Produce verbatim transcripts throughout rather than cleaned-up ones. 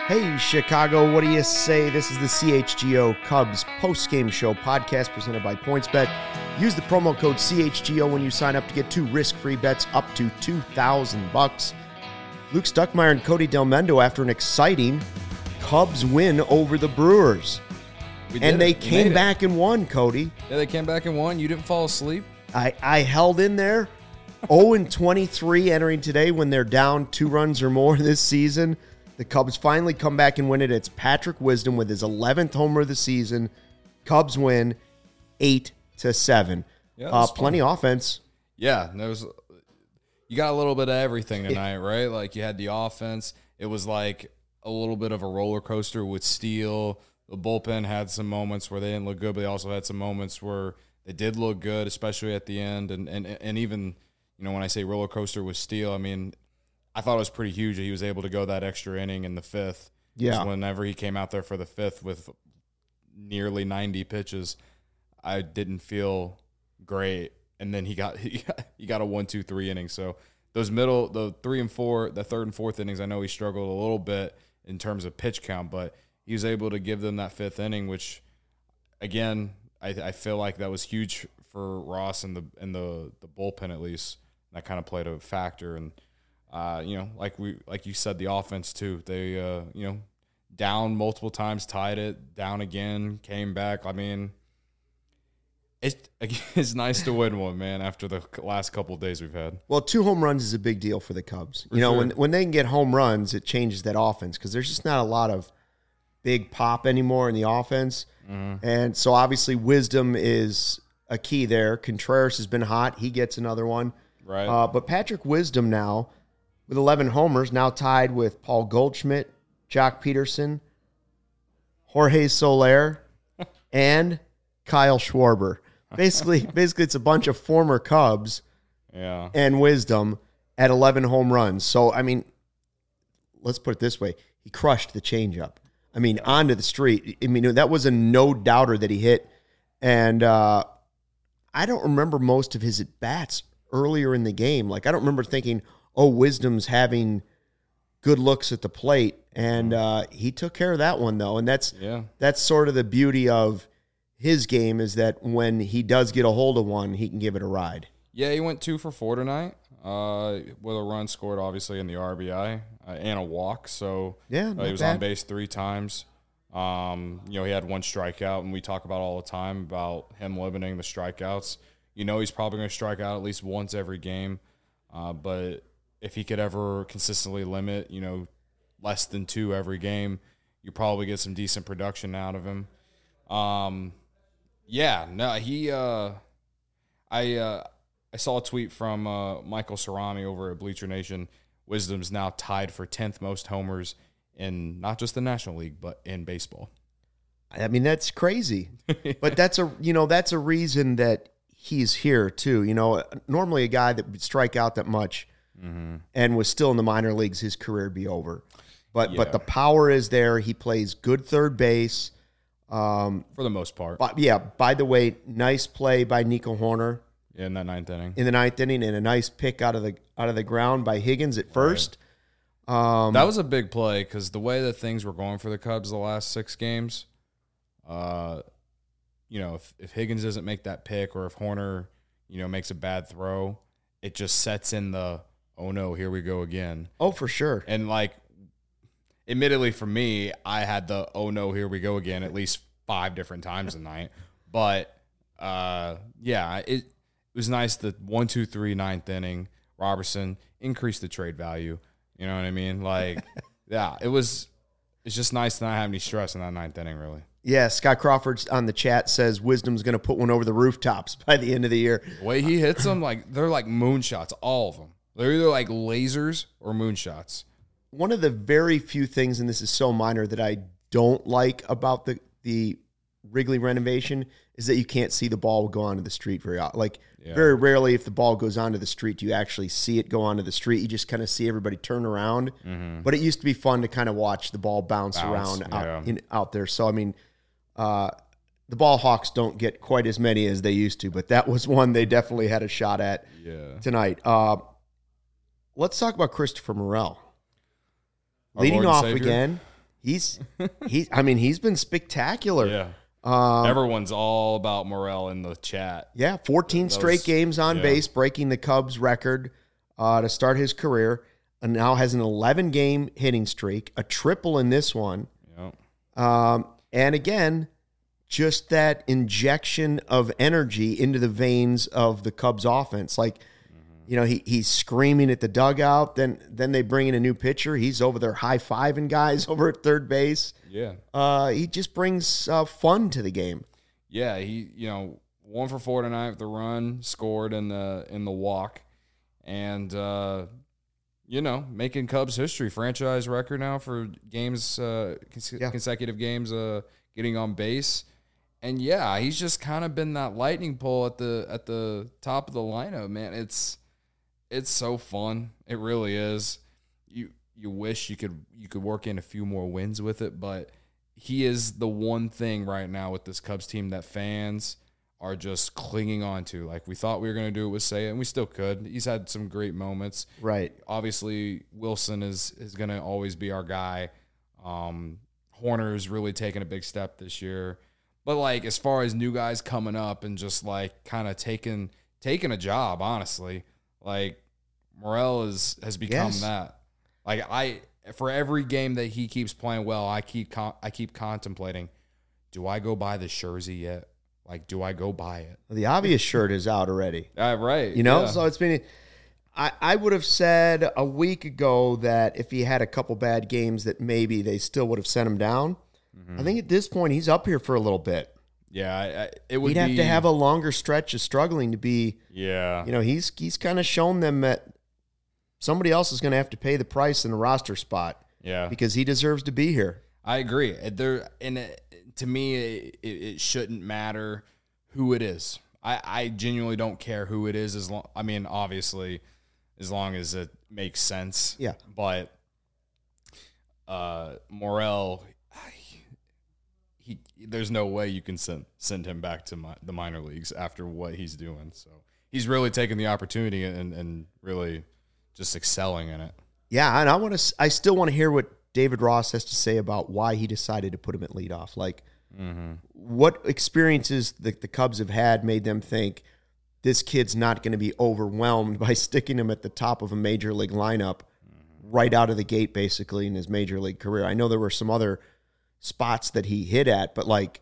Hey, Chicago, what do you say? This is the C H G O Cubs post-game show podcast presented by PointsBet. Use the promo code C H G O when you sign up to get two risk-free bets up to two thousand bucks. Luke Stuckmeyer and Cody Delmendo after an exciting Cubs win over the Brewers. We did and they it. We came made back it. and won, Cody. Yeah, they came back and won. You didn't fall asleep. I, I held in there. oh and twenty-three entering today when they're down two runs or more this season. The Cubs finally come back and win it. It's Patrick Wisdom with his eleventh homer of the season. Cubs win eight to seven. Yeah, uh, plenty of offense. Yeah, there was. You got a little bit of everything tonight, right? Like you had the offense. It was like a little bit of a roller coaster with Steele. The bullpen had some moments where they didn't look good, but they also had some moments where they did look good, especially at the end. And and and even, you know, when I say roller coaster with Steele, I mean, I thought it was pretty huge that he was able to go that extra inning in the fifth. Yeah. Whenever he came out there for the fifth with nearly ninety pitches, I didn't feel great. And then he got he got, he got a one, two, three inning. So those middle, the three and four, the third and fourth innings, I know he struggled a little bit in terms of pitch count, but he was able to give them that fifth inning, which, again, I, I feel like that was huge for Ross and the and the the bullpen at least. That kind of played a factor. And uh, you know, like we like you said, the offense too. They uh, you know, down multiple times, tied it, down again, came back. I mean, it's it's nice to win one, man, after the last couple of days we've had. Well, two home runs is a big deal for the Cubs. For you know, sure. when when they can get home runs, it changes that offense because there's just not a lot of big pop anymore in the offense. Mm-hmm. And so obviously Wisdom is a key there. Contreras has been hot. He gets another one. Right. Uh, but Patrick Wisdom now, with eleven homers, now tied with Paul Goldschmidt, Jock Peterson, Jorge Soler, and Kyle Schwarber. Basically, basically, it's a bunch of former Cubs yeah. and Wisdom at eleven home runs. So, I mean, let's put it this way. He crushed the changeup. I mean, onto the street. I mean, that was a no-doubter that he hit. And uh, I don't remember most of his at-bats earlier in the game. Like, I don't remember thinking, oh, Wisdom's having good looks at the plate. And uh, he took care of that one, though. And that's Yeah. that's sort of the beauty of his game is that when he does get a hold of one, he can give it a ride. Yeah, he went two for four tonight uh, with a run scored, obviously, in the R B I uh, and a walk. So Yeah, uh, not he was bad. on base three times. Um, you know, he had one strikeout, and we talk about all the time about him limiting the strikeouts. You know, he's probably going to strike out at least once every game. Uh, but if he could ever consistently limit, you know, less than two every game, you probably get some decent production out of him. Um, yeah, no, he. Uh, I uh, I saw a tweet from uh, Michael Cerami over at Bleacher Nation. Wisdom's now tied for tenth most homers in not just the National League, but in baseball. I mean, that's crazy. But that's a you know, that's a reason that he's here too. You know, normally a guy that would strike out that much Mm-hmm. and was still in the minor leagues, his career would be over. But Yeah. but the power is there. He plays good third base. Um, For the most part. but yeah, by the way, nice play by Nico Horner In that ninth inning. in the ninth inning and a nice pick out of the out of the ground by Higgins at first. Um, That was a big play because the way that things were going for the Cubs the last six games, uh, you know, if, if Higgins doesn't make that pick or if Horner, you know, makes a bad throw, it just sets in the, oh, no, here we go again. oh, for sure. And, like, admittedly for me, I had the, oh, no, here we go again at least five different times tonight. But, uh, yeah, it, it was nice the one, two, three, ninth inning. Robertson increased the trade value. You know what I mean? Like, yeah, it was it's just nice to not have any stress in that ninth inning, really. Yeah, Scott Crawford on the chat says Wisdom's going to put one over the rooftops by the end of the year. The way he hits them, like, they're like moonshots, all of them. They're either like lasers or moonshots. One of the very few things, and this is so minor, that I don't like about the the Wrigley renovation is that you can't see the ball go onto the street very often. Like, Yeah. very rarely if the ball goes onto the street, do you actually see it go onto the street. You just kind of see everybody turn around. Mm-hmm. But it used to be fun to kind of watch the ball bounce, Bounce, around out, yeah. in, out there. So, I mean, uh, the Ball Hawks don't get quite as many as they used to, but that was one they definitely had a shot at Yeah. tonight. Uh, let's talk about Christopher Morel. Our Leading Lord and off Savior. again, He's he's. I mean, he's been spectacular. Yeah. Um, Everyone's all about Morel in the chat. Yeah, fourteen Those, straight games on yeah. base, breaking the Cubs record uh, to start his career, and now has an eleven-game hitting streak, a triple in this one. Yep. Um, and again, just that injection of energy into the veins of the Cubs offense. Like, mm-hmm. you know, he he's screaming at the dugout. Then then they bring in a new pitcher. He's over there high-fiving guys over at third base. Yeah. Uh, he just brings uh, fun to the game. Yeah, he you know one for four tonight with the run, scored in the in the walk, and uh, you know making Cubs history, franchise record now for games, uh, cons- Yeah. consecutive games, uh, getting on base, and yeah, he's just kind of been that lightning pole at the at the top of the lineup, man. It's it's so fun, it really is. You you wish you could you could work in a few more wins with it, but he is the one thing right now with this Cubs team that fans are just clinging on to. Like, we thought we were going to do it with Seiya, and we still could. He's had some great moments. Right. Obviously, Wilson is is going to always be our guy. Um, Horner's really taken a big step this year. But, like, as far as new guys coming up and just, like, kind of taking taking a job, honestly, like, Morel is, has become Yes. that. Like, I... For every game that he keeps playing well, I keep con- I keep contemplating, do I go buy the jersey yet? Like, do I go buy it? The obvious shirt is out already. Uh, right. You know, yeah. so it's been. I, I would have said a week ago that if he had a couple bad games, that maybe they still would have sent him down. Mm-hmm. I think at this point he's up here for a little bit. Yeah, I, I, it would. He'd have be, to have a longer stretch of struggling to be. Yeah. You know, he's he's kind of shown them that somebody else is going to have to pay the price in the roster spot. Yeah, because he deserves to be here. I agree. There, and it, to me, it, it shouldn't matter who it is. I, I genuinely don't care who it is. As long, I mean, obviously, as long as it makes sense. Yeah. But uh, Morel, he, there's no way you can send send him back to my, the minor leagues after what he's doing. So he's really taking the opportunity and, and really just excelling in it. Yeah, and I want to. I still want to hear what David Ross has to say about why he decided to put him at leadoff. Like, mm-hmm. what experiences the, the Cubs have had made them think this kid's not going to be overwhelmed by sticking him at the top of a major league lineup mm-hmm. right out of the gate, basically in his major league career. I know there were some other spots that he hit at, but like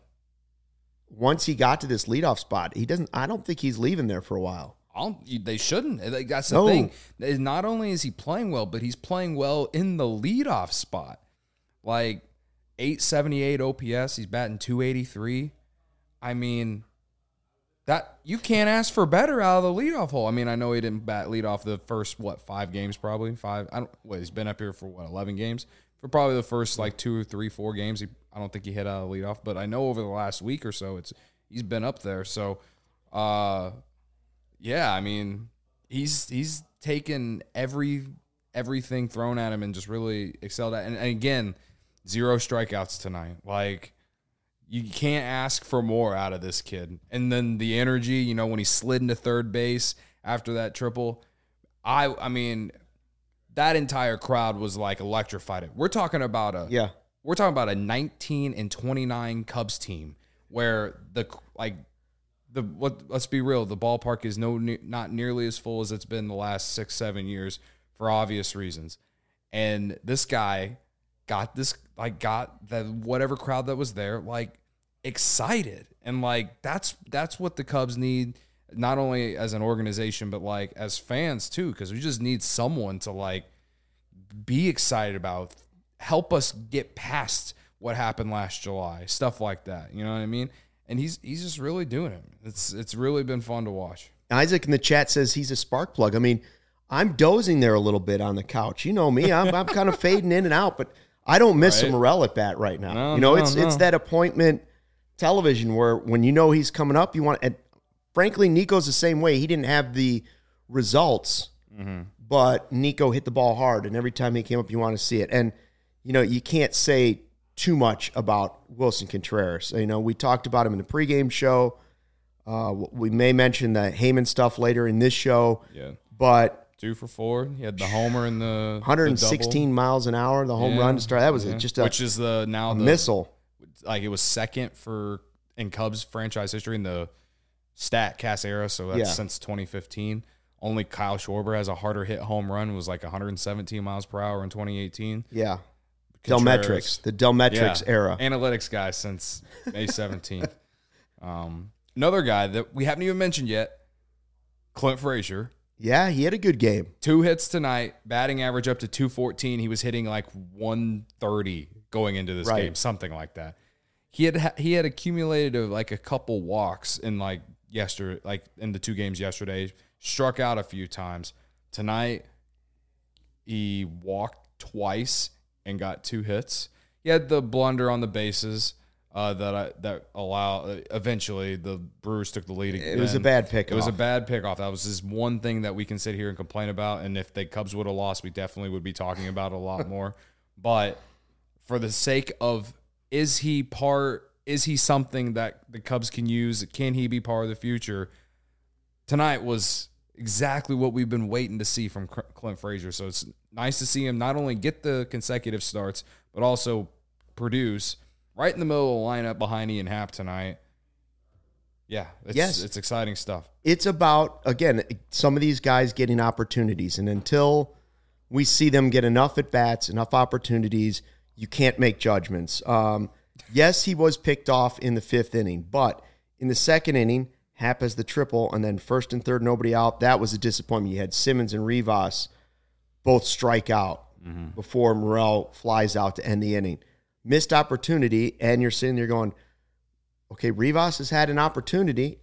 once he got to this leadoff spot, he doesn't. I don't think he's leaving there for a while. I don't, they shouldn't. That's the no. thing. Not only is he playing well, but he's playing well in the leadoff spot. Like eight seventy-eight O P S, he's batting two eighty-three. I mean, that you can't ask for better out of the leadoff hole. I mean, I know he didn't bat leadoff the first what five games probably five. I don't. What he's been up here for what eleven games for probably the first like two or three four games. He, I don't think he hit out of the leadoff, but I know over the last week or so, it's he's been up there. So. uh Yeah, I mean, he's he's taken every everything thrown at him and just really excelled at. And, and again, zero strikeouts tonight. Like, you can't ask for more out of this kid. And then the energy, you know, when he slid into third base after that triple, I I mean, that entire crowd was like electrified. We're talking about a yeah, we're talking about a nineteen and twenty-nine Cubs team where the like. The what? Let's be real. The ballpark is no not nearly as full as it's been the last six seven years for obvious reasons, and this guy got this like got that whatever crowd that was there like excited, and like that's that's what the Cubs need, not only as an organization but like as fans too, because we just need someone to like be excited about, help us get past what happened last July, stuff like that. You know what I mean? And he's he's just really doing it. It's it's really been fun to watch. Isaac in the chat says he's a spark plug. I mean, I'm dozing there a little bit on the couch. You know me, I'm I'm kind of fading in and out, but I don't miss Right. a Morel at bat right now. No, you know, no, it's no. it's that appointment television where when you know he's coming up, you want. And frankly, Nico's the same way. He didn't have the results, mm-hmm. but Nico hit the ball hard, and every time he came up, you want to see it. And you know, you can't say too much about Wilson Contreras. You know, we talked about him in the pregame show. Uh, we may mention the Heyman stuff later in this show. Yeah. But two for four. He had the homer and the one hundred sixteen the miles an hour, the home yeah, run to start. That was yeah. a, just a, which is the now a the missile. Like it was second for in Cubs franchise history in the StatCast era. So that's Yeah. since twenty fifteen. Only Kyle Schwarber has a harder hit home run. It was like one hundred seventeen miles per hour in twenty eighteen. Yeah. Contreras- Delmetrics, the Delmetrics Yeah. era. Analytics guy since May seventeenth. um, another guy that we haven't even mentioned yet, Clint Frazier. Yeah, he had a good game. Two hits tonight, batting average up to two fourteen. He was hitting like one thirty going into this Right. game, something like that. He had he had accumulated uh, like a couple walks in like yesterday, like in the two games yesterday. Struck out a few times. Tonight, he walked twice and got two hits. He had the blunder on the bases uh, that I, that allow. Uh, eventually, the Brewers took the lead again. It was a bad pickoff. It was a bad pickoff. That was just one thing that we can sit here and complain about. And if the Cubs would have lost, we definitely would be talking about it a lot more. But for the sake of, is he part? Is he something that the Cubs can use? Can he be part of the future? Tonight was exactly what we've been waiting to see from Clint Frazier. So it's nice to see him not only get the consecutive starts, but also produce right in the middle of the lineup behind Ian Happ tonight. Yeah, it's, Yes. it's exciting stuff. It's about, again, some of these guys getting opportunities. And until we see them get enough at-bats, enough opportunities, you can't make judgments. Um, yes, he was picked off in the fifth inning, but in the second inning, Happ has the triple, and then first and third, nobody out. That was a disappointment. You had Simmons and Rivas both strike out mm-hmm. before Morel flies out to end the inning. Missed opportunity, and you're sitting there going, okay, Rivas has had an opportunity,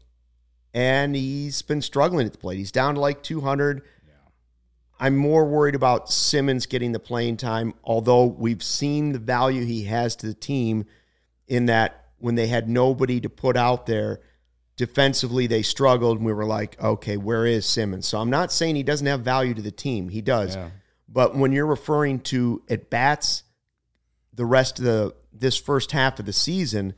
and he's been struggling at the plate. He's down to like two hundred. Yeah. I'm more worried about Simmons getting the playing time, although we've seen the value he has to the team in that when they had nobody to put out there, defensively, they struggled, and we were like, okay, where is Simmons? So I'm not saying he doesn't have value to the team. He does. Yeah. But when you're referring to at-bats the rest of the this first half of the season,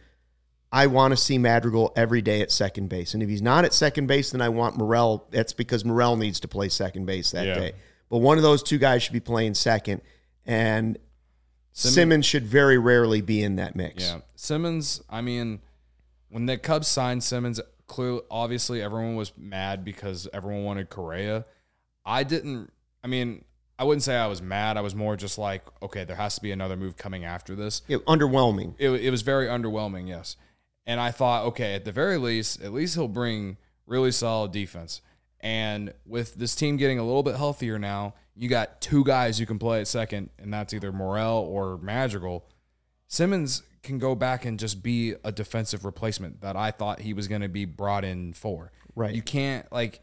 I want to see Madrigal every day at second base. And if he's not at second base, then I want Morel. That's because Morel needs to play second base that Yeah. day. But one of those two guys should be playing second, and Simmons, Simmons should very rarely be in that mix. Yeah. Simmons, I mean, when the Cubs signed Simmons, clearly, obviously, everyone was mad because everyone wanted Correa. I didn't, I mean, I wouldn't say I was mad. I was more just like, okay, there has to be another move coming after this. It, underwhelming. It, it was very underwhelming, yes. And I thought, okay, at the very least, at least he'll bring really solid defense. And with this team getting a little bit healthier now, you got two guys who can play at second, and that's either Morel or Madrigal. Simmons can go back and just be a defensive replacement that I thought he was going to be brought in for. Right. You can't, like,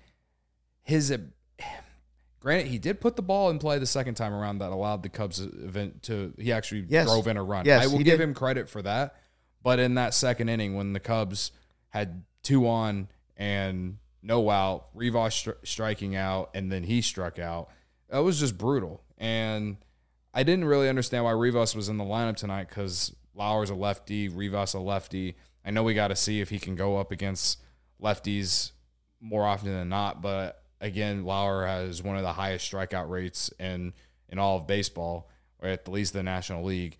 his – granted, he did put the ball in play the second time around that allowed the Cubs event to – he actually Yes. drove in a run. Yes, I will he give did. him credit for that. But in that second inning when the Cubs had two on and no out, Rivas stri- striking out, and then he struck out, that was just brutal. And I didn't really understand why Rivas was in the lineup tonight because Lauer's a lefty, Rivas a lefty. I know we got to see if he can go up against lefties more often than not, but again, Lauer has one of the highest strikeout rates in, in all of baseball, or at least the National League.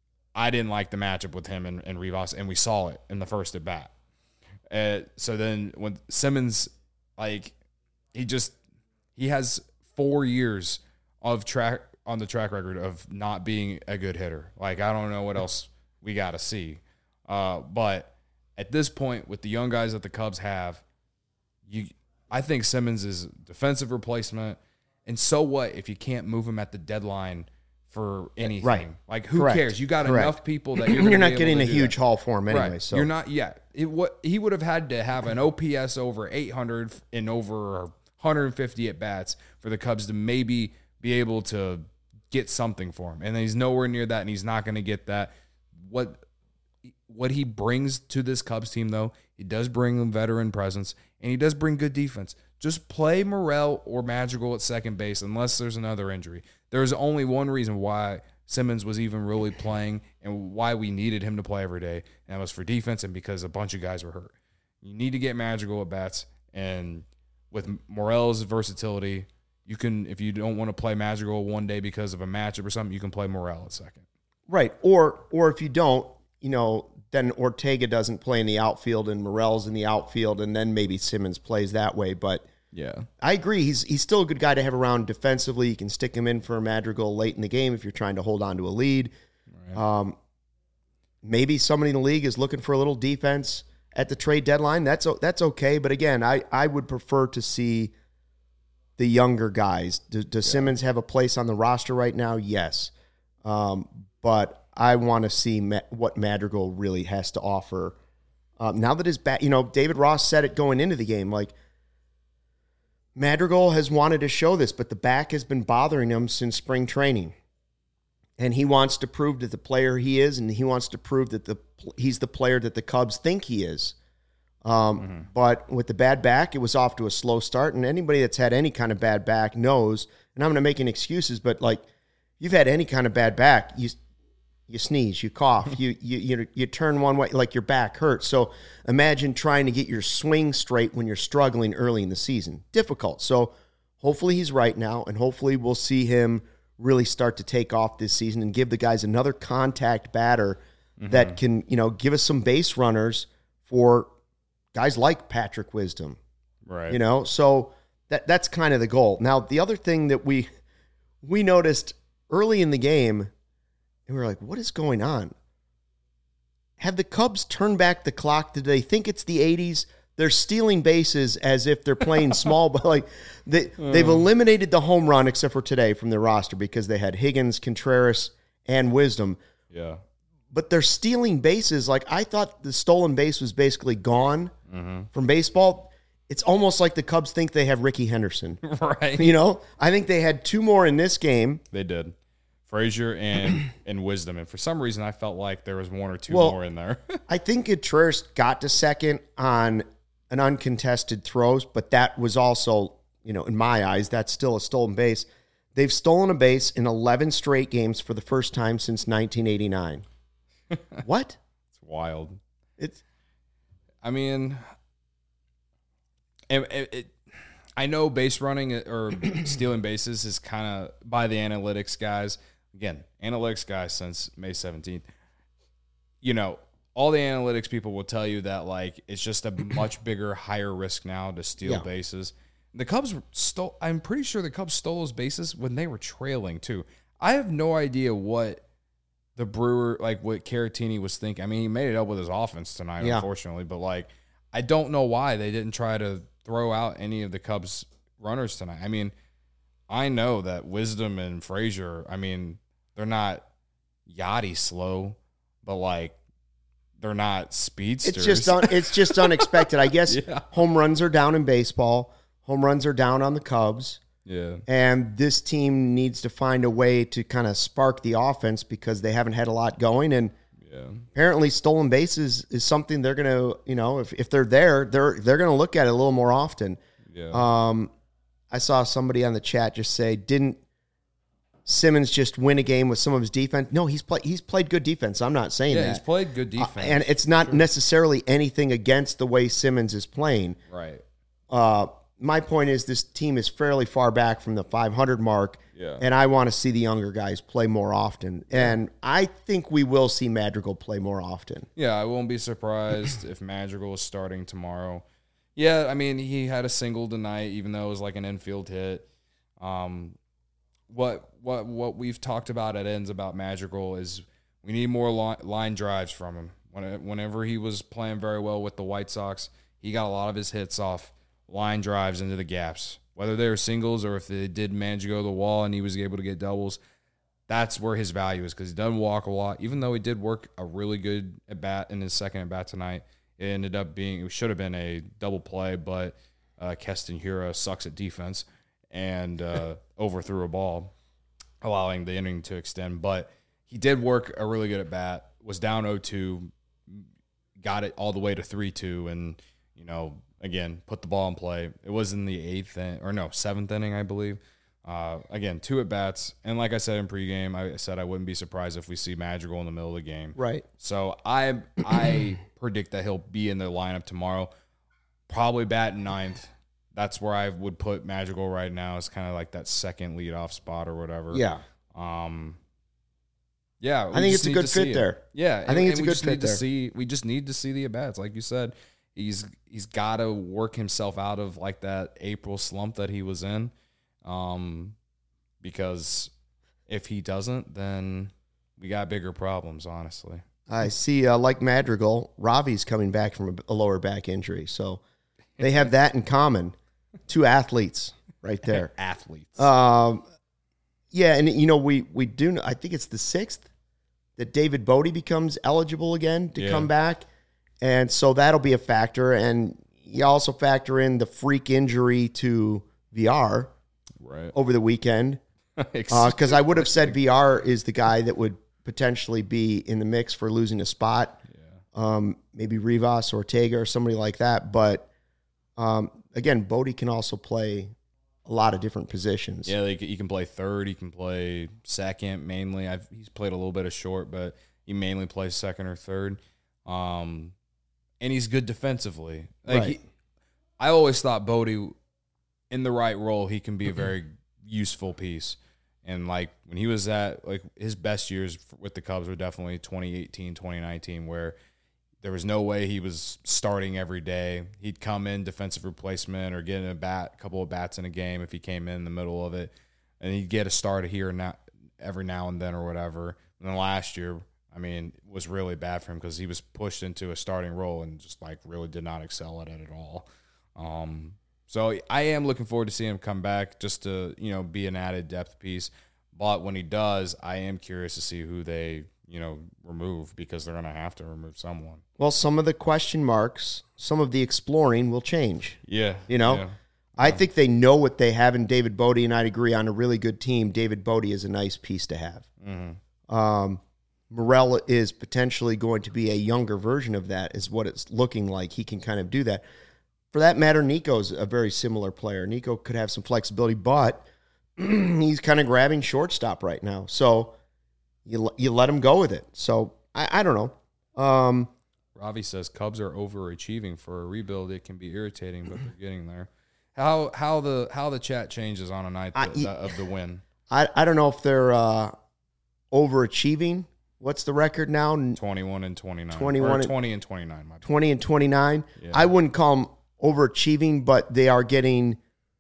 I didn't like the matchup with him and, and Rivas, and we saw it in the first at bat. Uh, so then when Simmons, like, he just he has four years of track on the track record of not being a good hitter. Like, I don't know what else we got to see. Uh, but at this point, with the young guys that the Cubs have, you, I think Simmons is defensive replacement. And so what if you can't move him at the deadline for anything? Right. Like, who Correct. cares? You got Correct. enough people that you're, You're gonna not be getting able a to do huge that. haul for him anyway. Right. So You're not yet. It, what he would have had to have an O P S over eight hundred and over one hundred fifty at bats for the Cubs to maybe be able to get something for him. And he's nowhere near that, and he's not going to get that. What what he brings to this Cubs team, though, he does bring a veteran presence, and he does bring good defense. Just play Morel or Madrigal at second base unless there's another injury. There's only one reason why Simmons was even really playing and why we needed him to play every day, and that was for defense and because a bunch of guys were hurt. You need to get Madrigal at bats, and with Morel's versatility, you can, if you don't want to play Madrigal one day because of a matchup or something, you can play Morel at second. Right. Or or if you don't, you know, then Ortega doesn't play in the outfield and Morel's in the outfield, and then maybe Simmons plays that way. But yeah, I agree. He's he's still a good guy to have around defensively. You can stick him in for a Madrigal late in the game if you're trying to hold on to a lead. Right. Um, maybe somebody in the league is looking for a little defense at the trade deadline. That's that's okay. But again, I, I would prefer to see the younger guys. Does, does yeah. Simmons have a place on the roster right now? Yes. Um, but I want to see Ma- what Madrigal really has to offer. Um, now that his back, you know, David Ross said it going into the game, like, Madrigal has wanted to show this, but the back has been bothering him since spring training. And he wants to prove that the player he is, and he wants to prove that the he's the player that the Cubs think he is. Um, mm-hmm. But with the bad back, it was off to a slow start. And anybody that's had any kind of bad back knows, and I'm going to make any excuses, but like, you've had any kind of bad back, you you sneeze, you cough, you you you you turn one way, like your back hurts. So imagine trying to get your swing straight when you're struggling early in the season. Difficult. So hopefully he's right now, and hopefully we'll see him really start to take off this season and give the guys another contact batter mm-hmm. that can, you know, give us some base runners for guys like Patrick Wisdom. Right. You know, so that that's kind of the goal. Now, the other thing that we we noticed early in the game, and we were like, what is going on? Have the Cubs turned back the clock? Did they think it's the eighties? They're stealing bases as if they're playing small, but like they, mm. they've eliminated the home run except for today from their roster because they had Higgins, Contreras, and Wisdom. Yeah. But they're stealing bases. Like, I thought the stolen base was basically gone mm-hmm. from baseball. It's almost like the Cubs think they have Ricky Henderson. Right. You know, I think they had two more in this game. They did. Frazier and and Wisdom. And for some reason, I felt like there was one or two well, more in there. I think Contreras got to second on an uncontested throws, but that was also, you know, in my eyes, that's still a stolen base. They've stolen a base in eleven straight games for the first time since nineteen eighty-nine. What? It's wild. It's, I mean, it, it, it, I know base running or stealing bases is kind of by the analytics guys. Again, analytics guys since May seventeenth. You know, all the analytics people will tell you that, like, it's just a much bigger, higher risk now to steal yeah. bases. The Cubs stole, I'm pretty sure the Cubs stole those bases when they were trailing, too. I have no idea what the Brewer, like, what Caratini was thinking. I mean, he made it up with his offense tonight, yeah. unfortunately, but, like, I don't know why they didn't try to throw out any of the Cubs runners tonight. I mean, I know that Wisdom and Frazier, I mean, they're not yachty slow, but, like, they're not speedsters. It's just un, it's just unexpected. I guess yeah. home runs are down in baseball. Home runs are down on the Cubs. Yeah. And this team needs to find a way to kind of spark the offense because they haven't had a lot going. And yeah. apparently stolen bases is something they're going to, you know, if, if they're there, they're they're going to look at it a little more often. Yeah. Um, I saw somebody on the chat just say, didn't Simmons just win a game with some of his defense? No, he's played he's played good defense. I'm not saying yeah, that. he's played good defense. Uh, and it's not sure. necessarily anything against the way Simmons is playing. Right. Uh, my point is this team is fairly far back from the five hundred mark, yeah. and I want to see the younger guys play more often. And I think we will see Madrigal play more often. Yeah, I won't be surprised if Madrigal is starting tomorrow. Yeah, I mean, he had a single tonight, even though it was like an infield hit. Um, what what what we've talked about at ends about Madrigal is we need more line, line drives from him. When, whenever he was playing very well with the White Sox, he got a lot of his hits off line drives into the gaps. Whether they were singles or if they did manage to go to the wall and he was able to get doubles, that's where his value is because he doesn't walk a lot. Even though he did work a really good at bat in his second at bat tonight, it ended up being, it should have been a double play, but uh, Keston Hiura sucks at defense and uh, overthrew a ball, allowing the inning to extend. But he did work a really good at bat, was down oh two, got it all the way to three two, and, you know, again, put the ball in play. It was in the eighth, in, or no, seventh inning, I believe. Uh, again, two at-bats. And like I said in pregame, I said I wouldn't be surprised if we see Madrigal in the middle of the game. Right. So I I predict that he'll be in the lineup tomorrow, probably bat ninth, that's where I would put Madrigal right now. Is kind of like that second leadoff spot or whatever. Yeah. Um. Yeah, I think it's a good fit there. Yeah, I think it's a we good just fit need to there. see. We just need to see the at bats, like you said. He's he's got to work himself out of like that April slump that he was in, um, because if he doesn't, then we got bigger problems. Honestly, I see. Uh, like Madrigal, Ravi's coming back from a, a lower back injury, so they have that in common. Two athletes right there. Athletes. Um, yeah, and you know we we do. I think it's the sixth that David Bodie becomes eligible again to Yeah. come back, and so that'll be a factor. And you also factor in the freak injury to V R Right. over the weekend, because I would have said V R is the guy that would potentially be in the mix for losing a spot. Yeah. Um, maybe Rivas, Ortega, or somebody like that. But um, again, Bodie can also play a lot of different positions. Yeah, like he can play third. He can play second mainly. I've, he's played a little bit of short, but he mainly plays second or third. Um, and he's good defensively. Like Right. he, I always thought Bodie, in the right role, he can be a very useful piece. And like when he was at like his best years with the Cubs were definitely twenty eighteen, twenty nineteen, where there was no way he was starting every day. He'd come in defensive replacement or get in a bat, a couple of bats in a game if he came in the middle of it, and he'd get a start here and now, every now and then or whatever. And then last year, I mean, was really bad for him because he was pushed into a starting role and just like really did not excel at it at all. Um, so I am looking forward to seeing him come back just to, you know, be an added depth piece. But when he does, I am curious to see who they, you know, remove because they're going to have to remove someone. Well, some of the question marks, some of the exploring will change. Yeah. You know, yeah. I think they know what they have in David Bodie, and I'd agree on a really good team. David Bodie is a nice piece to have. Mm-hmm. Um, Morel is potentially going to be a younger version of that, is what it's looking like. He can kind of do that. For that matter, Nico's a very similar player. Nico could have some flexibility, but he's kind of grabbing shortstop right now. So you you let him go with it. So I, I don't know. Um, Ravi says Cubs are overachieving for a rebuild. It can be irritating, but they're getting there. How how the how the chat changes on a night I- that, that of the win. I, I don't know if they're uh, overachieving. What's the record now? Twenty-one and twenty-nine. twenty-one Or and- twenty and twenty-nine. My bad. twenty and twenty-nine. Yeah. I wouldn't call them overachieving, but they are getting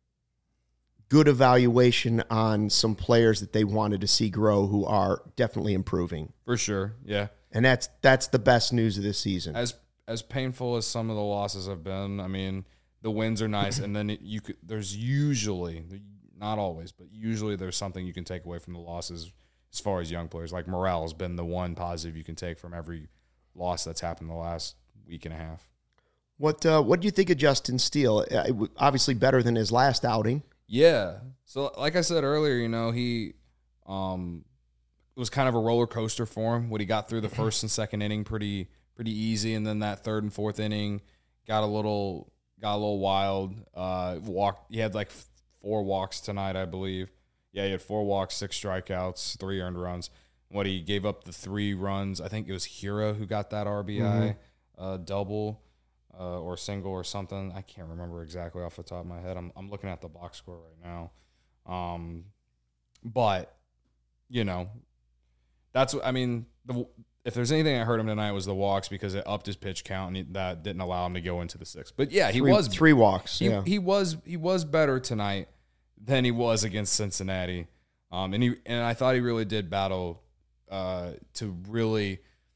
good evaluation on some players that they wanted to see grow who are definitely improving. For sure. Yeah. And that's that's the best news of this season. As as painful as some of the losses have been, I mean, the wins are nice, and then it, you could. There's usually, not always, but usually there's something you can take away from the losses as far as young players. Like Morel has been the one positive you can take from every loss that's happened the last week and a half. What uh, what do you think of Justin Steele? Uh, it w- obviously better than his last outing. Yeah. So, like I said earlier, you know, he um, it was kind of a roller coaster for him. When he got through the first and second inning pretty pretty easy, and then that third and fourth inning got a little got a little wild. Uh, walked. He had like four walks tonight, I believe. Yeah, he had four walks, six strikeouts, three earned runs. What he gave up the three runs. I think it was Hira who got that R B I Mhm. uh, double. Uh, or single or something. I can't remember exactly off the top of my head. I'm I'm looking at the box score right now. Um, but, you know, that's what, I mean, the, if there's anything that hurt him tonight was the walks because it upped his pitch count and he, that didn't allow him to go into the sixth. But yeah, he three, was three walks. he, yeah. he was he was better tonight than he was against Cincinnati. Um, and he and I thought he really did battle uh, to really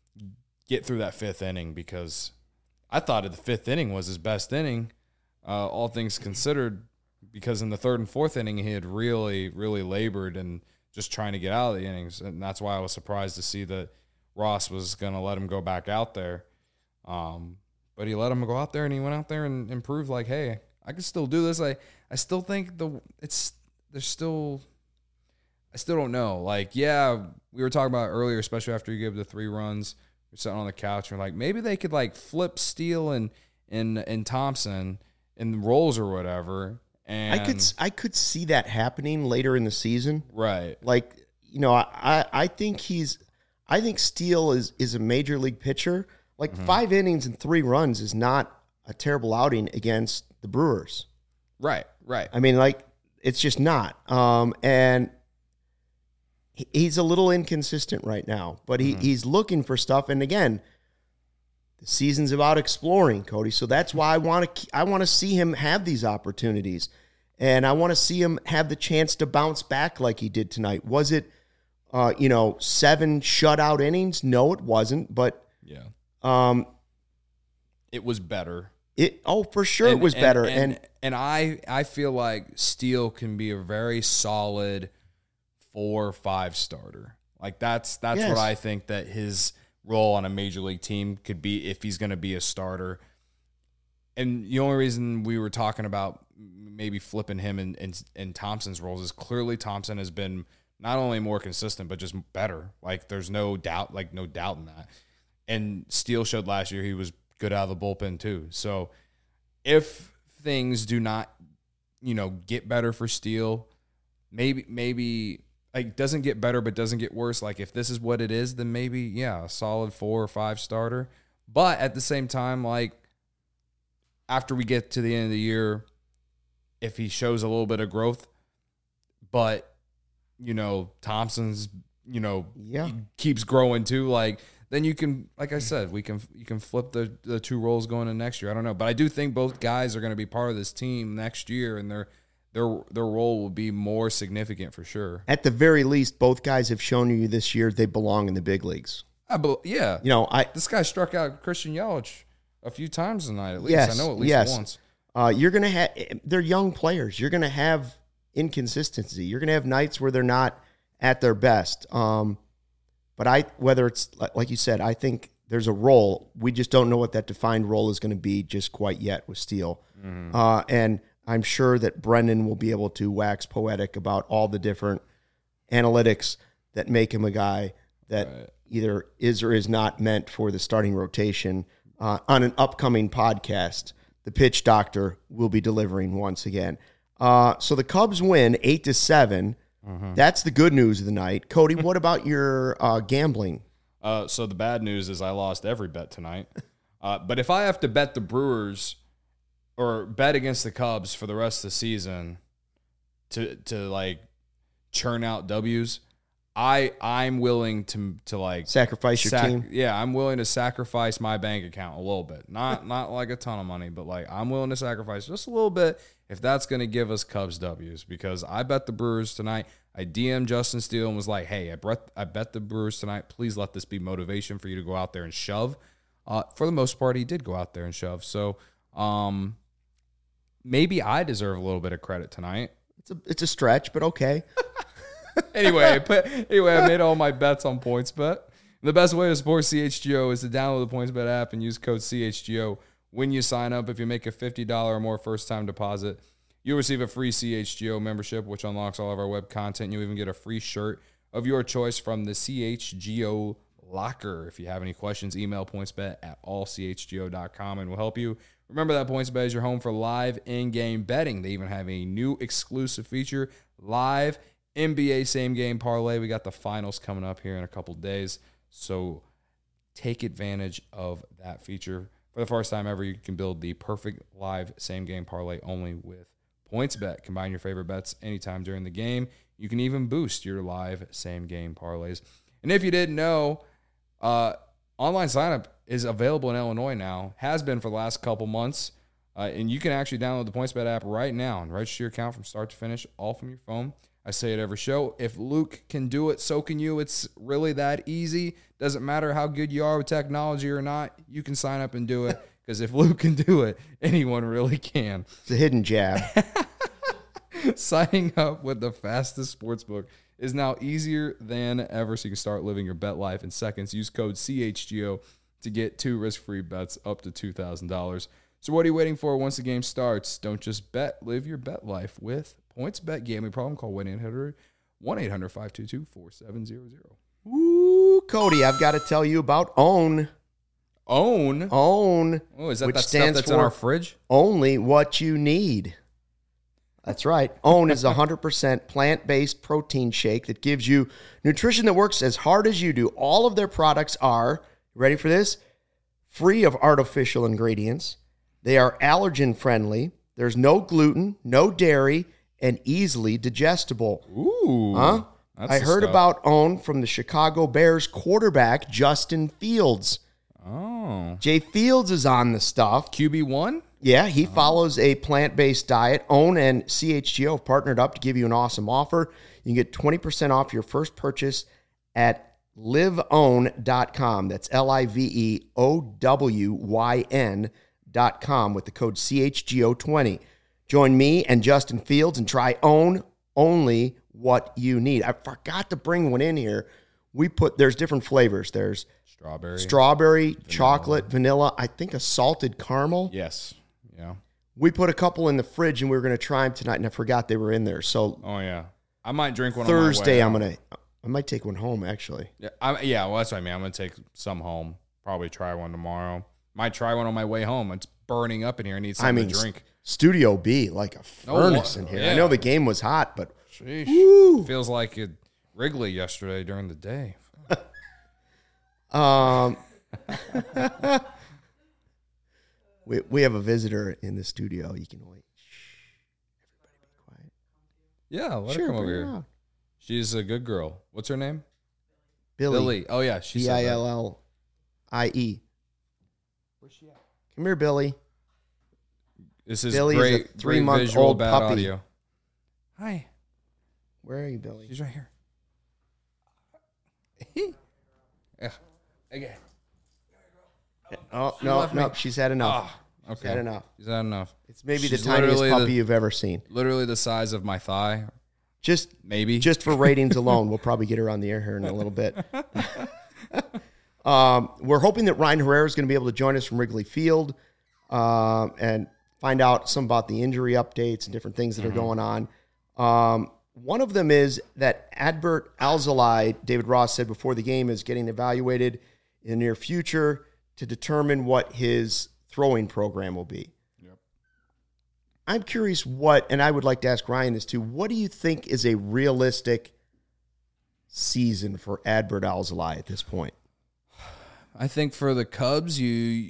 get through that fifth inning because I thought the fifth inning was his best inning, uh, all things considered, because in the third and fourth inning he had really, really labored and just trying to get out of the innings, and that's why I was surprised to see that Ross was going to let him go back out there. Um, but he let him go out there, and he went out there and, and proved like, hey, I can still do this. I I still think the it's there's still I still don't know. Like, yeah, we were talking about it earlier, especially after you gave the three runs. You're sitting on the couch and you're like, maybe they could like flip Steele and and and Thompson in roles or whatever. And I could I could see that happening later in the season. right. Like, you know, I, I, I think he's I think Steele is is a major league pitcher. Like Mm-hmm. five innings and three runs is not a terrible outing against the Brewers. Right, right. I mean, like, it's just not. Um, and he, he's a little inconsistent right now, but he, mm-hmm. he's looking for stuff. And again, the season's about exploring, Cody. So that's why I want to I want to see him have these opportunities. And I want to see him have the chance to bounce back like he did tonight. Was it, uh, you know, seven shutout innings? No, it wasn't. But yeah, um, it was better. It oh for sure and, it was and, better. And, and and I I feel like Steele can be a very solid four or five starter. Like that's that's yes. what I think that his role on a major league team could be if he's going to be a starter. And the only reason we were talking about maybe flipping him in, in, in Thompson's roles is clearly Thompson has been not only more consistent, but just better. Like there's no doubt, like no doubt in that. And Steele showed last year he was good out of the bullpen too. So if things do not, you know, get better for Steele, maybe, maybe like doesn't get better, but doesn't get worse. Like if this is what it is, then maybe, yeah, a solid four or five starter. But at the same time, like, after we get to the end of the year, if he shows a little bit of growth, but, you know, Thompson's, you know, yeah. keeps growing too, like, then you can, like I said, we can you can flip the, the two roles going into next year. I don't know. But I do think both guys are going to be part of this team next year, and their their their role will be more significant for sure. At the very least, both guys have shown you this year they belong in the big leagues. I be, yeah. You know, I this guy struck out Christian Yelich a few times tonight, at least. Yes, I know at least yes. once. Uh, you're going to have, they're young players. You're going to have inconsistency. You're going to have nights where they're not at their best. Um, but I, whether it's, like you said, I think there's a role. We just don't know what that defined role is going to be just quite yet with Steele. Mm-hmm. Uh, and I'm sure that Brendan will be able to wax poetic about all the different analytics that make him a guy that right. either is or is not meant for the starting rotation. Uh, on an upcoming podcast, the Pitch Doctor will be delivering once again. Uh, so the Cubs win eight to seven. Mm-hmm. That's the good news of the night. Cody, what about your uh, gambling? Uh, so the bad news is I lost every bet tonight. Uh, but if I have to bet the Brewers or bet against the Cubs for the rest of the season to to like churn out W's, I I'm willing to to like sacrifice your sac- team. Yeah, I'm willing to sacrifice my bank account a little bit. Not not like a ton of money, but like I'm willing to sacrifice just a little bit if that's going to give us Cubs W's, because I bet the Brewers tonight. I D M'd Justin Steele and was like, "Hey, I bet I bet the Brewers tonight. Please let this be motivation for you to go out there and shove." Uh, for the most part, he did go out there and shove. So um, maybe I deserve a little bit of credit tonight. It's a it's a stretch, but okay. anyway, but anyway, I made all my bets on PointsBet. The best way to support C H G O is to download the PointsBet app and use code C H G O when you sign up. If you make a fifty dollars or more first-time deposit, you'll receive a free C H G O membership, which unlocks all of our web content. You'll even get a free shirt of your choice from the C H G O locker. If you have any questions, email PointsBet at all c h g o dot com and we'll help you. Remember that PointsBet is your home for live in-game betting. They even have a new exclusive feature, live N B A same-game parlay. We got the finals coming up here in a couple days, so take advantage of that feature. For the first time ever, you can build the perfect live same-game parlay only with PointsBet. Combine your favorite bets anytime during the game. You can even boost your live same-game parlays. And if you didn't know, uh, online sign-up is available in Illinois now, has been for the last couple months, uh, and you can actually download the PointsBet app right now and register your account from start to finish, all from your phone. I say it every show. If Luke can do it, so can you. It's really that easy. Doesn't matter how good you are with technology or not. You can sign up and do it, because if Luke can do it, anyone really can. It's a hidden jab. Signing up with the fastest sportsbook is now easier than ever, so you can start living your bet life in seconds. Use code C H G O to get two risk-free bets up to two thousand dollars. So what are you waiting for once the game starts? Don't just bet. Live your bet life with PointsBet. Gambling problem? Call one eight hundred five two two four seven zero zero. Ooh, Cody, I've got to tell you about OWN. OWN? OWN. Oh, is that which that stuff stands that's for in our fridge? Only what you need. That's right. OWN is a one hundred percent plant-based protein shake that gives you nutrition that works as hard as you do. All of their products are, ready for this, free of artificial ingredients. They are allergen-friendly. There's no gluten, no dairy, and easily digestible. Ooh. Huh? That's I the heard stuff. about OWN from the Chicago Bears quarterback, Justin Fields. Oh. Jay Fields is on the stuff. Q B one? Yeah, he follows a plant-based diet. OWN and C H G O have partnered up to give you an awesome offer. You can get twenty percent off your first purchase at live own dot com. That's L I V E O W Y N dot com with the code C H G O twenty. Join me and Justin Fields and try OWN, only what you need. I forgot to bring one in here. We put, there's different flavors. There's Strawberry. strawberry, vanilla. Chocolate, vanilla, I think a salted caramel. Yes. Yeah. We put a couple in the fridge and we were going to try them tonight, and I forgot they were in there. So Oh, yeah. I might drink one Thursday, on my way I'm going to, I might take one home, actually. Yeah, I, yeah, well, that's what I mean. I'm going to take some home. Probably try one tomorrow. Might try one on my way home. It's burning up in here. I need something I mean, to drink. Studio B, like a Oh, furnace what- in here. yeah. I know the game was hot, but Sheesh. Woo. Feels like it Wrigley yesterday during the day. um, we, we have a visitor in the studio. You can wait. Shh. Everybody be quiet. Yeah, let Sure, her come over bring her here. out. She's a good girl. What's her name? Billy. Billy. Oh, yeah. She B said I that. L L I E. Where's she at? Come here, Billy. This is Billy is a great, great three-month visual, old bad puppy. audio. Hi. Where are you, Billy? She's right here. Yeah. Okay. Oh, She no, left no, me. she's had enough. Ah, She's okay. had enough. Is that enough? It's maybe She's the tiniest literally puppy the- you've ever seen. Literally the size of my thigh, Just maybe. just for ratings alone, we'll probably get her on the air here in a little bit. um, we're hoping that Ryan Herrera is going to be able to join us from Wrigley Field um, and find out some about the injury updates and different things that are going on. Um, one of them is that Adbert Alzolay, David Ross said before the game, is getting evaluated in the near future to determine what his throwing program will be. Yep. I'm curious what, and I would like to ask Ryan this too, what do you think is a realistic season for Adbert Alzolay at this point? I think for the Cubs, you.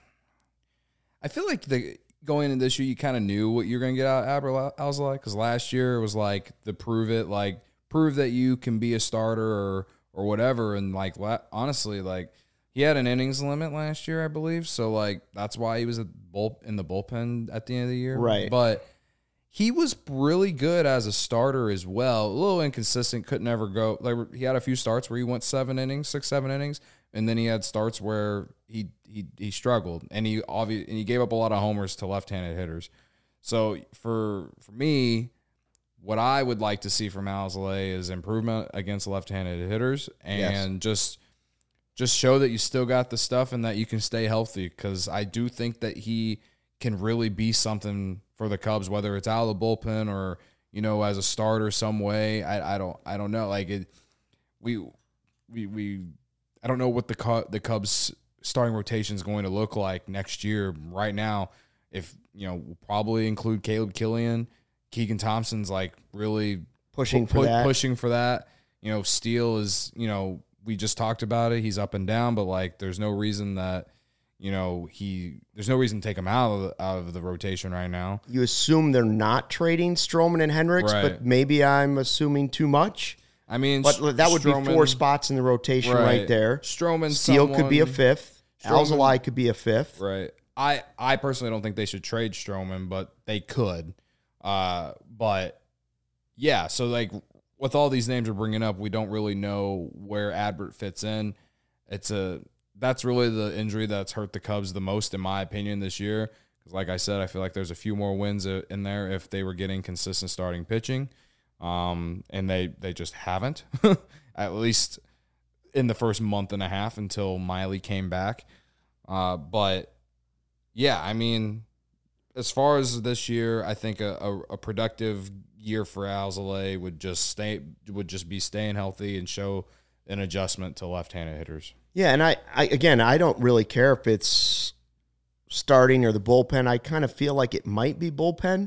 I feel like the going into this year, you kind of knew what you're going to get out of Adbert Alzolay, because last year it was like the prove it, like prove that you can be a starter or or whatever, and like honestly, like he had an innings limit last year, I believe, so like that's why he was at bull in the bullpen at the end of the year, Right? But he was really good as a starter as well. A little inconsistent, couldn't ever go. Like he had a few starts where he went seven innings, six, seven innings, and then he had starts where he he he struggled, and he obviously and he gave up a lot of homers to left-handed hitters. So for for me, what I would like to see from Alzolay is improvement against left-handed hitters, and yes. just just show that you still got the stuff and that you can stay healthy. Because I do think that he can really be something for the Cubs, whether it's out of the bullpen or, you know, as a starter some way. I, I don't I don't know. Like it, we we we I don't know what the the Cubs starting rotation is going to look like next year. Right now, if you know, we'll probably include Caleb Killian. Keegan Thompson's like really pushing pu- for that. Pushing for that. You know, Steele is, you know, we just talked about it. He's up and down, but like there's no reason that, you know, he there's no reason to take him out of the, out of the rotation right now. You assume they're not trading Stroman and Hendricks, Right. but maybe I'm assuming too much. I mean, But that would Stroman, be four spots in the rotation right, right there. Stroman, Steele could be a someone- fifth. Stroman- Alzolay could be a fifth. Right. I, I personally don't think they should trade Stroman, but they could. Uh, but yeah, so like with all these names we're bringing up, we don't really know where Adbert fits in. It's a that's really the injury that's hurt the Cubs the most, in my opinion, this year. Because like I said, I feel like there's a few more wins in there if they were getting consistent starting pitching, um, and they they just haven't, at least in the first month and a half until Miley came back. Uh, but yeah, I mean, as far as this year, I think a, a, a productive year for Alzolay would just stay would just be staying healthy and show an adjustment to left-handed hitters. Yeah, and I, I again, I don't really care if it's starting or the bullpen. I kind of feel like it might be bullpen.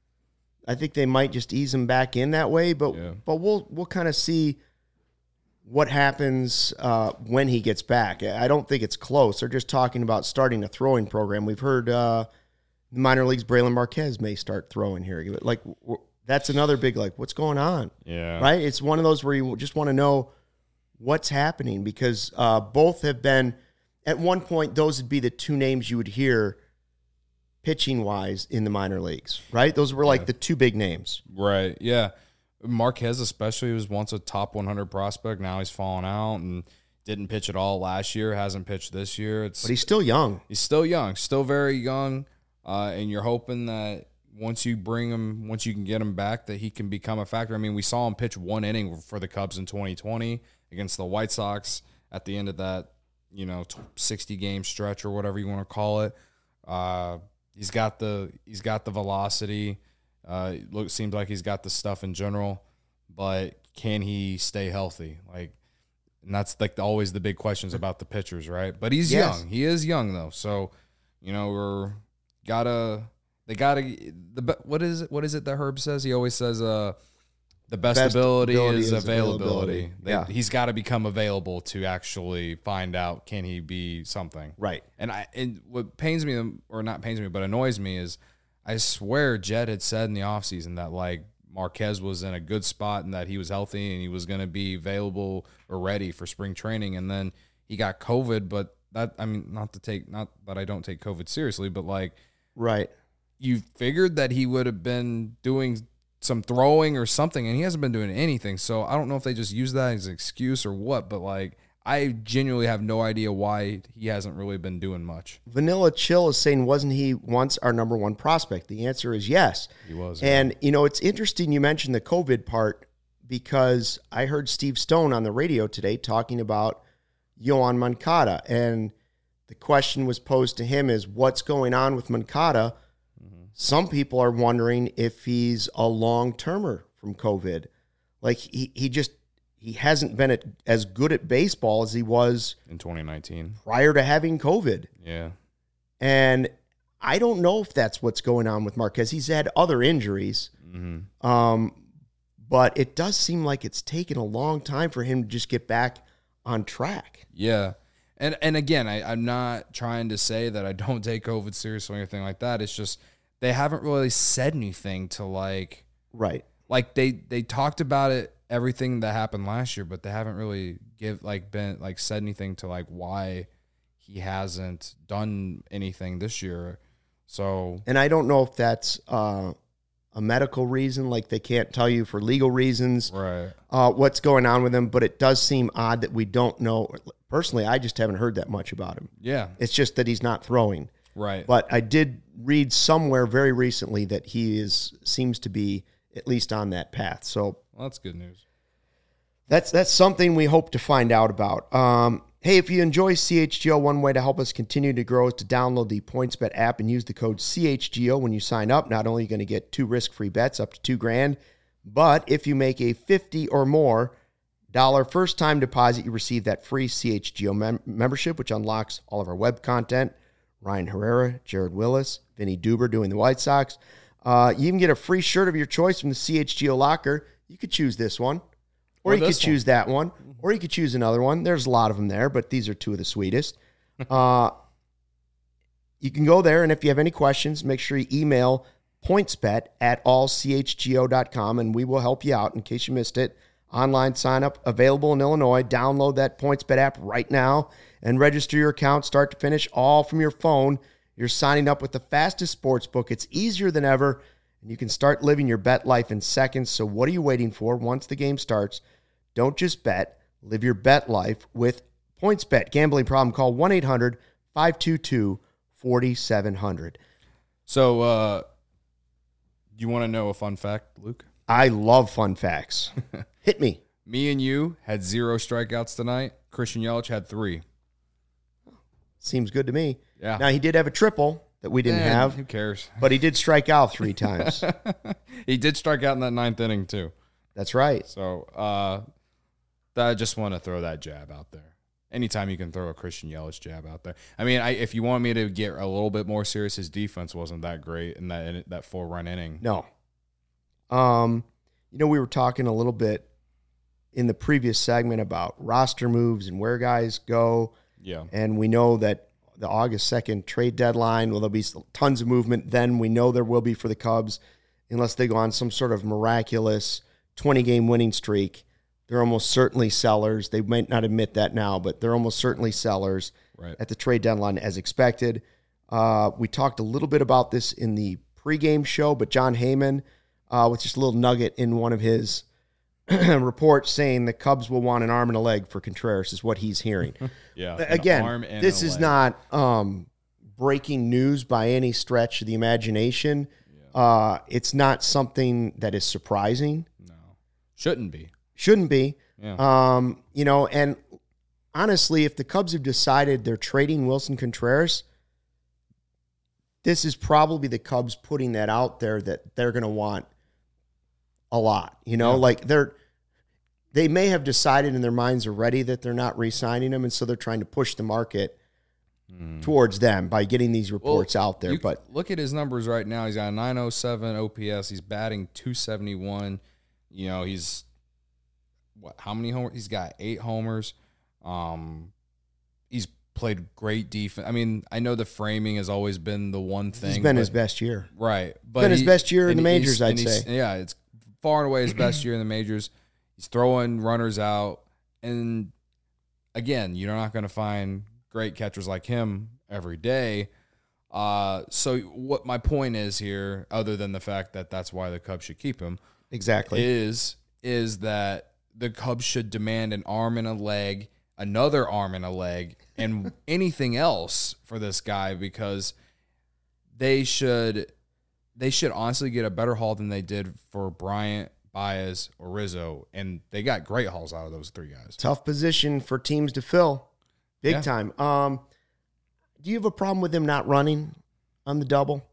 I think they might just ease him back in that way, but Yeah. but we'll we'll kind of see what happens uh, when he gets back. I don't think it's close. They're just talking about starting a throwing program. We've heard uh, the minor leagues, Braylon Marquez may start throwing here. Like, that's another big, like, what's going on? Yeah. Right? It's one of those where you just want to know what's happening because uh, both have been, at one point, those would be the two names you would hear pitching-wise in the minor leagues, right? Those were like Yeah. the two big names. Right, yeah. Marquez especially was once a top one hundred prospect. Now he's fallen out and didn't pitch at all last year, hasn't pitched this year. It's But he's still young. He's still young, still very young, uh, and you're hoping that once you bring him, once you can get him back, that he can become a factor. I mean, we saw him pitch one inning for the Cubs in twenty twenty against the White Sox at the end of that, you know, sixty-game stretch or whatever you want to call it. Uh, he's got the he's got the velocity. Uh, it looks seems like he's got the stuff in general, but can he stay healthy? Like. And that's like always the big questions about the pitchers, right? But he's Yes. young. He is young though, so you know we're gotta they gotta the what is it? What is it that Herb says? He always says, "Uh, the best, Best ability, ability is, is availability." availability. They- Yeah. he's got to become available to actually find out can he be something. Right. And I and what pains me or not pains me, but annoys me is I swear Jed had said in the offseason that like. Marquez was in a good spot and that he was healthy and he was going to be available or ready for spring training. And then he got COVID, but that, I mean, not to take, not that I don't take COVID seriously, but like, Right. you figured that he would have been doing some throwing or something and he hasn't been doing anything. So I don't know if they just use that as an excuse or what, but like, I genuinely have no idea why he hasn't really been doing much. Vanilla Chill is saying, wasn't he once our number one prospect? The answer is yes. He was. And, you know, it's interesting you mentioned the COVID part because I heard Steve Stone on the radio today talking about Yoan Moncada. And the question was posed to him is, what's going on with Moncada? Mm-hmm. Some people are wondering if he's a long-termer from COVID. Like, he, he just... He hasn't been at, as good at baseball as he was in twenty nineteen prior to having COVID. Yeah. And I don't know if that's what's going on with Marquez. He's had other injuries. Mm-hmm. Um, but it does seem like it's taken a long time for him to just get back on track. Yeah. And and again, I, I'm not trying to say that I don't take COVID seriously or anything like that. It's just they haven't really said anything to like Right. like they they talked about it everything that happened last year, but they haven't really give like been like said anything to like why he hasn't done anything this year. So And I don't know if that's uh, a medical reason, like they can't tell you for legal reasons right. uh, what's going on with him, but it does seem odd that we don't know. Personally, I just haven't heard that much about him. Yeah. It's just that he's not throwing. Right. But I did read somewhere very recently that he is seems to be at least on that path. So Well, that's good news. That's that's something we hope to find out about. Um, hey, if you enjoy C H G O, one way to help us continue to grow is to download the PointsBet app and use the code C H G O when you sign up. Not only are you going to get two risk-free bets up to two grand, but if you make a fifty or more dollar first-time deposit, you receive that free C H G O mem- membership, which unlocks all of our web content. Ryan Herrera, Jared Willis, Vinny Duber doing the White Sox. Uh, you even get a free shirt of your choice from the C H G O locker. You could choose this one. Or, Or you could this choose that one. Or you could choose another one. There's a lot of them there, but these are two of the sweetest. uh, you can go there, and if you have any questions, make sure you email pointsbet at all c h g o dot com, and we will help you out in case you missed it. Online sign-up available in Illinois. Download that PointsBet app right now and register your account start to finish all from your phone. You're signing up with the fastest sports book. It's easier than ever, and you can start living your bet life in seconds. So what are you waiting for? Once the game starts, don't just bet. Live your bet life with PointsBet. Gambling problem? Call one eight hundred five two two four seven zero zero. So, uh, you want to know a fun fact, Luke? I love fun facts. Hit me. Me and you had zero strikeouts tonight. Christian Yelich had three. Seems good to me. Yeah. Now, he did have a triple that we didn't Eh, have, Who cares? but he did strike out three times. He did strike out in that ninth inning, too. That's right. So, uh, I just want to throw that jab out there. Anytime you can throw a Christian Yelich jab out there. I mean, I, if you want me to get a little bit more serious, his defense wasn't that great in that in that four run inning. No. Um, you know, we were talking a little bit in the previous segment about roster moves and where guys go. Yeah. And we know that the August second trade deadline. Will there be tons of movement? Then we know there will be for the Cubs, unless they go on some sort of miraculous twenty-game winning streak. They're almost certainly sellers. They might not admit that now, but they're almost certainly sellers right. at the trade deadline as expected. Uh, we talked a little bit about this in the pregame show, but John Heyman, uh, with just a little nugget in one of his reports saying the Cubs will want an arm and a leg for Contreras is what he's hearing. yeah. Again, arm and this a is leg. not um, breaking news by any stretch of the imagination. Yeah. Uh, it's not something that is surprising. No. Shouldn't be. Shouldn't be. Yeah. Um, you know, and honestly, if the Cubs have decided they're trading Wilson Contreras, this is probably the Cubs putting that out there that they're going to want a lot. You know, yeah. like they're they may have decided in their minds already that they're not re-signing him, and so they're trying to push the market mm. towards them by getting these reports well, out there. But look at his numbers right now. He's got a nine oh seven O P S. He's batting two seventy-one. You know, he's what? How many homers? He's got eight homers. Um, he's played great defense. I mean, I know the framing has always been the one thing. He's been but, his best year, right? But been he, his best year in the majors, I'd say. say. Yeah, it's far and away his best year in the majors. He's throwing runners out, and again, you're not going to find great catchers like him every day. Uh, so what my point is here, other than the fact that that's why the Cubs should keep him, exactly, is is that the Cubs should demand an arm and a leg, another arm and a leg, and anything else for this guy, because they should they should honestly get a better haul than they did for Bryant, Baez, or Rizzo, and they got great hauls out of those three guys. Tough position for teams to fill, big yeah. time. Um, do you have a problem with him not running on the double?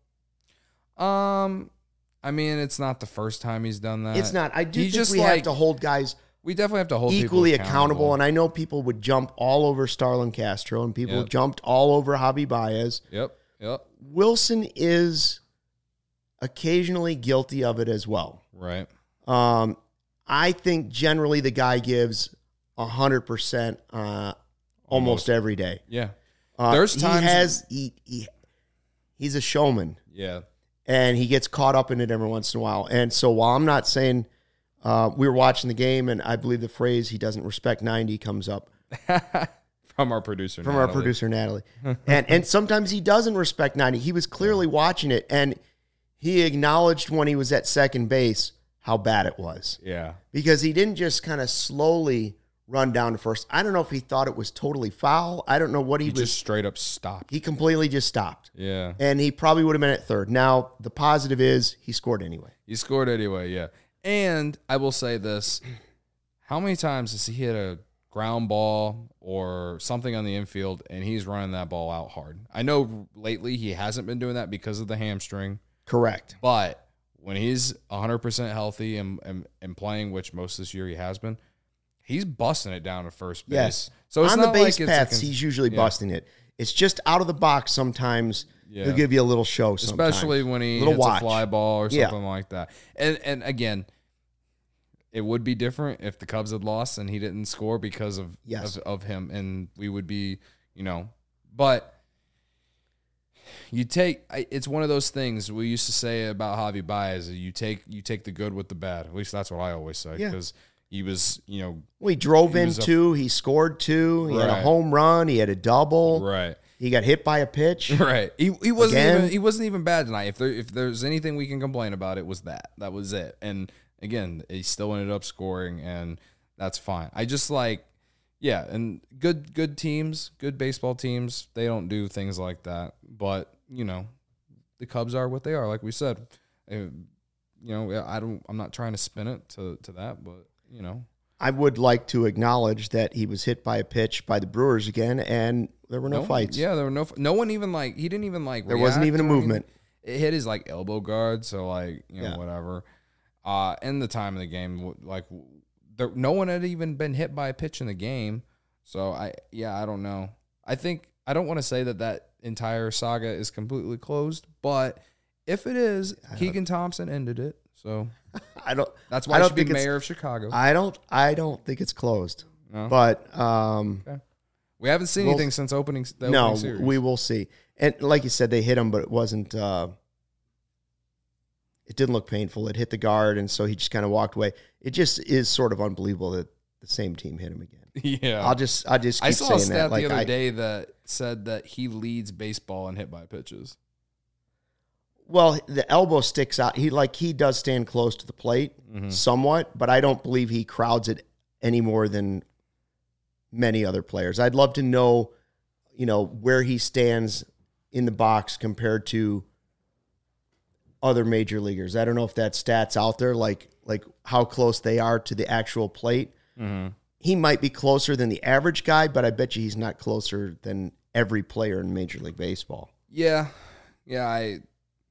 Um, I mean, it's not the first time he's done that. It's not. I do He's think just we like, have to hold guys. We definitely have to hold equally people accountable. accountable. And I know people would jump all over Starlin Castro, and people Yep. jumped all over Javi Baez. Yep, yep. Wilson is occasionally guilty of it as well. Right. Um, I think generally the guy gives one hundred percent uh, almost, almost every day. Yeah. Uh, There's times he has he, he he's a showman. Yeah. And he gets caught up in it every once in a while. And so while I'm not saying uh, we were watching the game, and I believe the phrase "he doesn't respect ninety" comes up from our producer, from Natalie. our producer Natalie, and and sometimes he doesn't respect ninety. He was clearly watching it, and he acknowledged when he was at second base how bad it was. Yeah, because he didn't just kind of slowly run down to first. I don't know if he thought it was totally foul. I don't know what he, he was. just straight up stopped. He completely just stopped. Yeah, and he probably would have been at third. Now the positive is he scored anyway. He scored anyway. Yeah, and I will say this: how many times has he hit a ground ball or something on the infield, and he's running that ball out hard? I know lately he hasn't been doing that because of the hamstring. Correct. But when he's one hundred percent healthy and, and, and playing, which most this year he has been, he's busting it down to first base. Yes. So it's on not the base like it's paths, a cons- he's usually yeah. busting it. It's just out of the box sometimes. Yeah. He'll give you a little show sometimes. Especially when he little hits watch. a fly ball or Yeah. something like that. And and again, it would be different if the Cubs had lost and he didn't score because of, Yes. of, of him. And we would be, you know, but you take, it's one of those things we used to say about Javi Baez. You take, you take the good with the bad. At least that's what I always say. Yeah. Because he was, you know. Well, he drove he in was a- two. He scored two. He had a Right. home run. He had a double. Right. He got hit by a pitch. Right. He he wasn't Again. even he wasn't even bad tonight. If there if there's anything we can complain about, it was that. That was it. And again, he still ended up scoring, and that's fine. I just like yeah, and good good teams, good baseball teams, they don't do things like that. But, you know, the Cubs are what they are, like we said. Uh, you know, I don't I'm not trying to spin it to to that, but, you know. I would like to acknowledge that he was hit by a pitch by the Brewers again, and there were no, No, fights. Yeah, there were no. No one even like. He didn't even like. There wasn't react even a or anything. movement. It hit his like elbow guard, so like you know Yeah. whatever. Uh, in the time of the game, like there, no one had even been hit by a pitch in the game. So I yeah I don't know. I think I don't want to say that that entire saga is completely closed, but if it is, Keegan Thompson ended it. So I don't. that's why I he don't should be think it's- mayor of Chicago. I don't. I don't think it's closed. No? But um, Okay. We haven't seen We'll- anything since opening the no, opening series. we will see. And like you said, they hit him, but it wasn't. Uh, it didn't look painful. It hit the guard, and so he just kind of walked away. It just is sort of unbelievable that the same team hit him again. Yeah. I'll just, I just keep I saw saying a stat that. Like the other I, day that said that he leads baseball in hit by pitches. well, the elbow sticks out. He like he does stand close to the plate Mm-hmm. somewhat, but I don't believe he crowds it any more than many other players. I'd love to know, you know, where he stands in the box compared to other major leaguers. I don't know if that stat's out there, like like how close they are to the actual plate. Mm-hmm. He might be closer than the average guy, but I bet you he's not closer than every player in Major League Baseball. Yeah. Yeah, I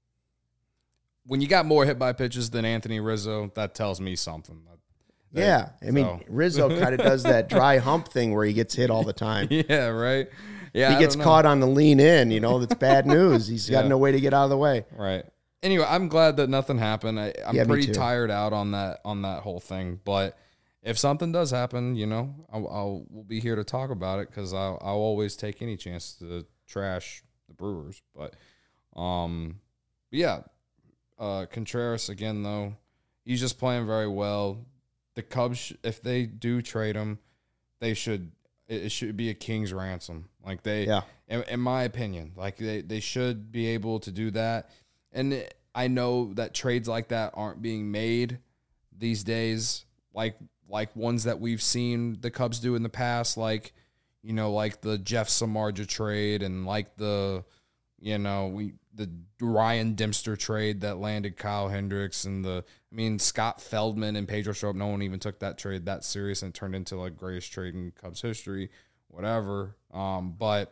when you got more hit by pitches than Anthony Rizzo, that tells me something. That- Yeah, I mean so. Rizzo kind of does that dry hump thing where he gets hit all the time. Yeah, right. Yeah, He I gets don't know. caught on the lean in, you know, that's bad news. He's got Yeah. no way to get out of the way. Right. Anyway, I'm glad that nothing happened. I, I'm Yeah, me pretty too. tired out on that on that whole thing. But if something does happen, you know, I'll, I'll we'll be here to talk about it because I'll I'll always take any chance to trash the Brewers. But um, but yeah, uh, Contreras again though, he's just playing very well. The Cubs, sh- if they do trade him, they should it, it should be a king's ransom. Like they, Yeah. in, in my opinion, like they they should be able to do that. And I know that trades like that aren't being made these days, like like ones that we've seen the Cubs do in the past, like, you know, like the Jeff Samardzija trade and like the, you know, we the Ryan Dempster trade that landed Kyle Hendricks and the, I mean, Scott Feldman and Pedro Strop, no one even took that trade that serious and it turned into like greatest trade in Cubs history, whatever. Um, but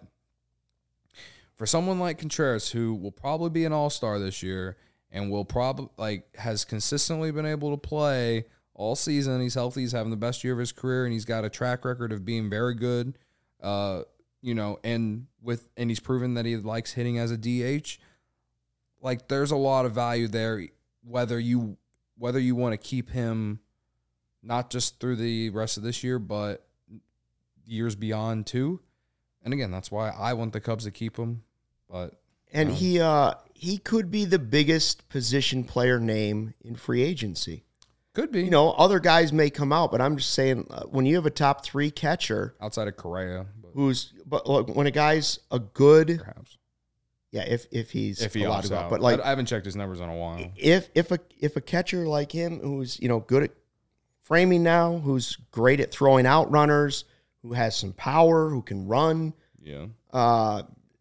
for someone like Contreras, who will probably be an all-star this year and will probably like has consistently been able to play all season, he's healthy, he's having the best year of his career, and he's got a track record of being very good. Uh, you know, and with and he's proven that he likes hitting as a D H. Like, there's a lot of value there, whether you whether you want to keep him not just through the rest of this year, but years beyond too. And again, that's why I want the Cubs to keep him. But And you know, he uh, he could be the biggest position player name in free agency. could be, You know, other guys may come out, but I'm just saying uh, when you have a top three catcher outside of Correa, but who's, but look, when a guy's a good, perhaps yeah, if if he's if he allowed opts to go out, out. but like I, I haven't checked his numbers in a while. if if a if a catcher like him who's, you know, good at framing now, who's great at throwing out runners, who has some power, who can run, Yeah, uh,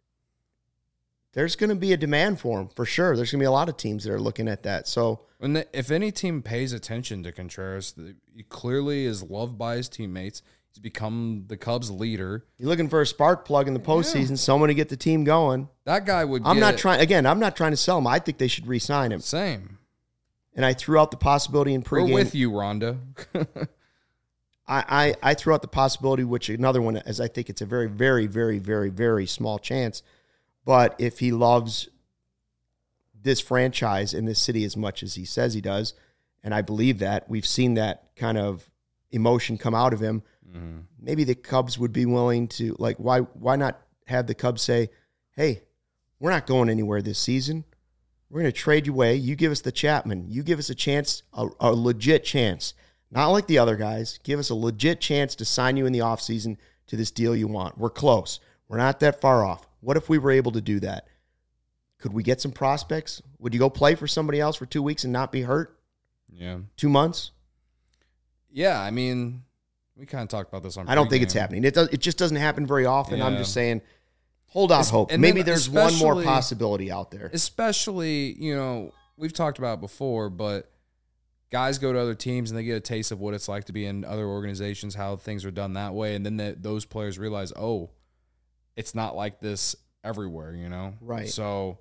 there's going to be a demand for him for sure. There's going to be a lot of teams that are looking at that. So when the, if any team pays attention to Contreras, the, he clearly is loved by his teammates. He's become the Cubs' leader. you're looking for a spark plug in the postseason, someone to get the team going. That guy would. I'm get not trying. Again, I'm not trying to sell him. I think they should re-sign him. Same. And I threw out the possibility in We're pregame. with you, Rhonda. I, I, I threw out the possibility, which another one, as I think it's a very, very, very, very, very small chance. But if he loves this franchise and this city as much as he says he does, and I believe that, we've seen that kind of emotion come out of him, Mm-hmm. maybe the Cubs would be willing to, like, why why not have the Cubs say, hey, we're not going anywhere this season. We're going to trade you away. You give us the Chapman. You give us a chance, a, a legit chance. Not like the other guys. Give us a legit chance to sign you in the offseason to this deal you want. We're close. We're not that far off. What if we were able to do that? Could we get some prospects? Would you go play for somebody else for two weeks and not be hurt? Yeah. Two months? Yeah, I mean, we kind of talked about this on I don't think it's pregame. happening. It does. It just doesn't happen very often. I'm Yeah. just saying, hold out Es- hope. and Maybe then there's one more especially- possibility out there. Especially, you know, we've talked about it before, but guys go to other teams and they get a taste of what it's like to be in other organizations, how things are done that way. And then the, those players realize, oh, it's not like this everywhere, you know? Right. So,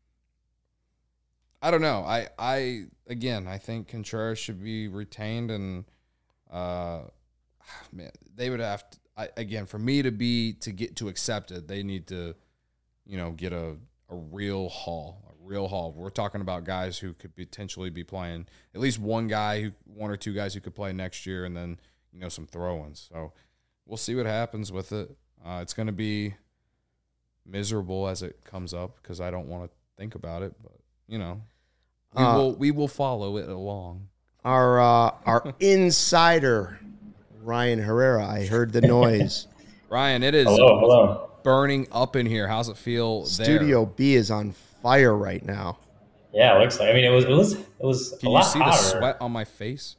I don't know. I, I again, I think Contreras should be retained and, uh, man, they would have to, I, again, for me to be, to get to accept it, they need to, you know, get a, a real haul, a real haul. We're talking about guys who could potentially be playing, at least one guy, who one or two guys who could play next year, and then, you know, some throw-ins. So we'll see what happens with it. Uh, it's going to be miserable as it comes up because I don't want to think about it, but you know, we Uh, will we will follow it along. Our uh, our insider, Ryan Herrera. I heard the noise. Ryan, it is Hello, hello. burning up in here. How's it feel there? Studio B is on fire right now. Yeah, it looks like. I mean, it was it was it was Can a you lot see hotter. the sweat on my face?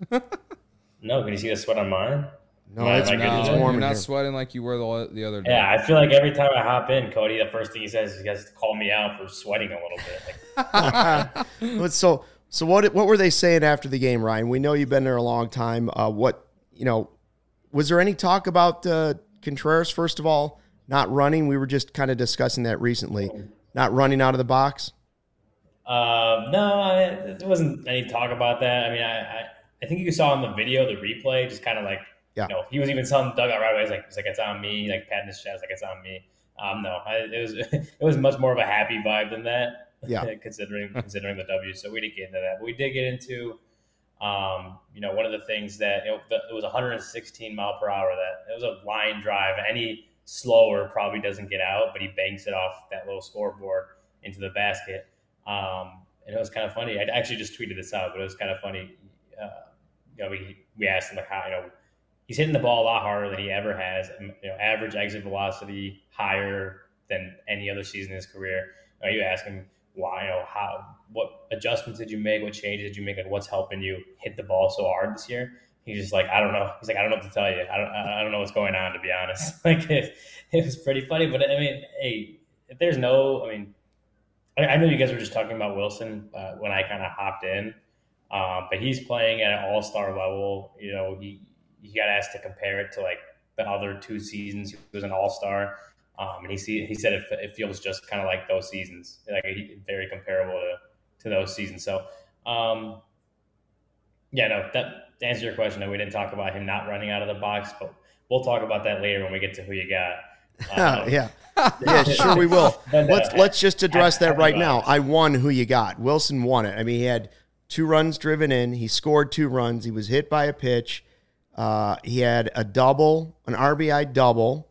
No, can you see the sweat on mine? No, My- it's, my it's goodness. No, warm you're in not here. sweating like you were the, the other day. Yeah, I feel like every time I hop in, Cody, the first thing he says is he has to call me out for sweating a little bit. Like, But so so what what were they saying after the game, Ryan? We know you've been there a long time. Uh, what you know? Was there any talk about uh, Contreras? First of all, not running. We were just kind of discussing that recently. Not running out of the box. uh, no, I, there wasn't any talk about that. I mean, I, I I think you saw in the video, the replay, just kind of like, Yeah. you know, he was even telling dugout right away. He's like, he's like, it's on me. Like patting his chest, like it's on me. Um, no, I, it was it was much more of a happy vibe than that. Yeah. considering considering the W. So we didn't get into that, but we did get into, um, you know, one of the things that you know, the, it was one hundred sixteen mile per hour. That it was a line drive. Any slower probably doesn't get out, but he banks it off that little scoreboard into the basket. Um, and it was kind of funny. I actually just tweeted this out, but it was kind of funny. Uh, you know, we we asked him like how you know he's hitting the ball a lot harder than he ever has. You know, average exit velocity higher than any other season in his career. Uh, you ask him why, you know, how, what adjustments did you make? What changes did you make? Like, what's helping you hit the ball so hard this year? He's just like, I don't know. He's like, I don't know what to tell you. I don't, I don't know what's going on, to be honest. Like, it, it was pretty funny. But I mean, hey, if there's no, I mean, I, I know you guys were just talking about Wilson uh, when I kind of hopped in, um, but he's playing at an all-star level. You know, he he got asked to compare it to like the other two seasons. He was an all-star. Um, and he see, he said it, it feels just kind of like those seasons, like he, very comparable to, to those seasons. So, um, yeah, no, that to answer your question, we didn't talk about him not running out of the box, but we'll talk about that later when we get to who you got. Um, yeah, yeah, sure we will. But, uh, Let's let's just address that right happy now. vibes. I won who you got. Wilson won it. I mean, he had two runs driven in. He scored two runs. He was hit by a pitch. Uh, he had a double, an R B I double,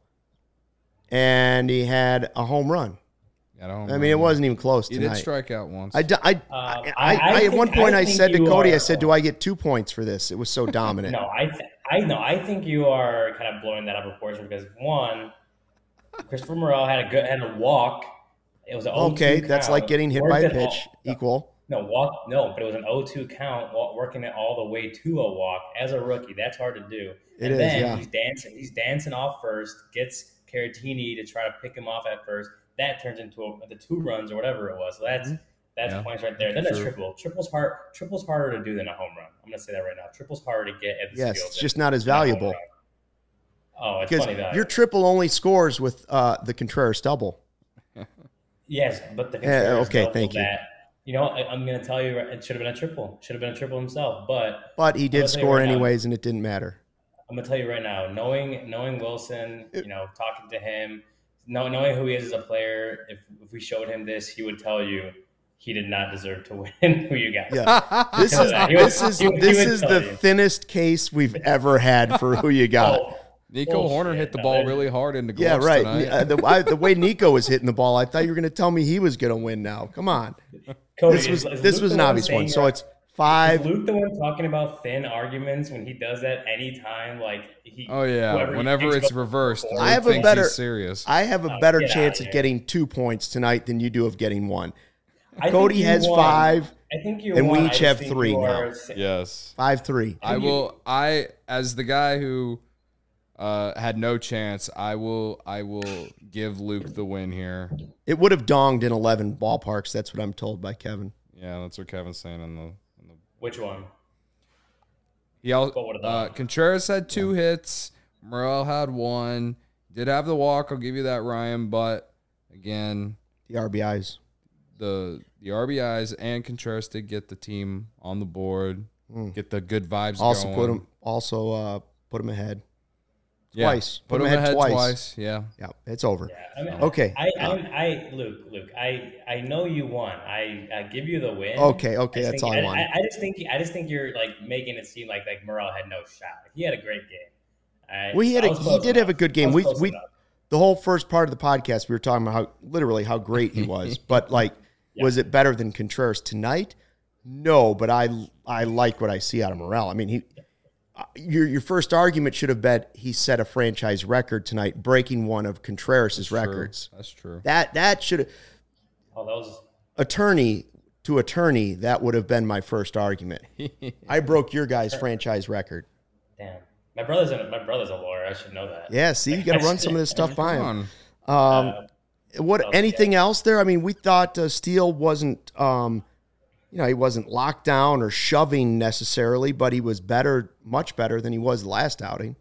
and he had a home run. I, don't I mean, it wasn't even close He did tonight. strike out once. I, d- I, Um, I, I- I, I at one think- point I I, think said to you Cody, are- I said, "Do I get two points for this?" It was so dominant. No, I th- I know. I think you are kind of blowing that out of proportion because one, Christopher Morel had a good had a walk. It was an Okay, oh two that's count. like getting hit Worked by a it all- pitch. Equal. No walk. No, but it was an oh two count, wa- working it all the way to a walk as a rookie. That's hard to do. It and is, then yeah. he's dancing. He's dancing off first. Gets Caratini to try to pick him off at first. That turns into a, the two runs or whatever it was. So that's that's Yeah. points right there. Then a True. triple. Triple's hard. Triple's harder to do than a home run. I'm gonna say that right now. Triple's harder to get at this Yes, field it's than- just not as than a home valuable. run. Oh, it's Because funny value. your triple only scores with uh, the Contreras double. Yes, but the Yeah, Contreras okay, double thank you. that. You know, I, I'm going to tell you, it should have been a triple. Should have been a triple himself. But But he I'm did gonna tell you score right now, anyways, and it didn't matter. I'm going to tell you right now, knowing knowing Wilson, you know, talking to him, know, knowing who he is as a player, if if we showed him this, he would tell you he did not deserve to win. Who you got? Yeah, this is He would- this is he would- this he would is tell the you. thinnest case we've ever had for who you got. Oh, Nico bullshit. Horner hit the No, ball that- really hard into Yeah, gloves right. tonight. Uh, the, I, the way Nico was hitting the ball, I thought you were going to tell me he was going to win. Now, come on. Cody, This was is- is this Luke was the an obvious saying one. So that- it's five. Is Luke the one talking about thin arguments when he does that anytime? Like he. oh yeah, whoever he whenever thinks it's about- reversed, I Luke have a thinks better- he's serious. I have a Oh, better get chance outta at here. getting two points tonight than you do of getting one. I think Cody you has won. five, I think you and we won. I each just have think three you now. are- Yes. five three. I you- will. I as the guy who uh, had no chance. I will. I will give Luke the win here. It would have donged in eleven ballparks. That's what I'm told by Kevin. Yeah, that's what Kevin's saying in the. In the Which one? he al- What would've uh, done? Contreras had two hits. Morel had one. Did have the walk. I'll give you that, Ryan. But again, The R B Is. the the R B Is and Contreras did get the team on the board. Mm. Get the good vibes. Also going. put him. Also uh, put him ahead. Yeah, twice. Put, Put him him ahead, ahead twice. twice. Yeah. Yeah, it's over. Yeah, I mean, Okay. I, I, I, Luke, Luke, I, I know you won. I, I give you the win. Okay, okay, I that's think- all I wanted. I, I just think, I just think you're like making it seem like like Morel had no shot. Like, he had a great game. I, Well, he had I a, was he close did have a enough. good I game. was We close we enough. the whole first part of the podcast, we were talking about how literally how great he was. But like, yeah. was it better than Contreras tonight? No, but I I like what I see out of Morel. I mean, he your your first argument should have been he set a franchise record tonight, breaking one of Contreras' records. True. That's true. That that should have. Oh, that was attorney to attorney. That would have been my first argument. I broke your guy's franchise record. Damn, my brother's a, my brother's a lawyer. I should know that. Yeah, see, you got to run some of this stuff by him. Um, Uh, what? oh, Anything yeah. else there? I mean, we thought uh, Steele wasn't, um, you know, he wasn't locked down or shoving necessarily, but he was better, much better than he was last outing.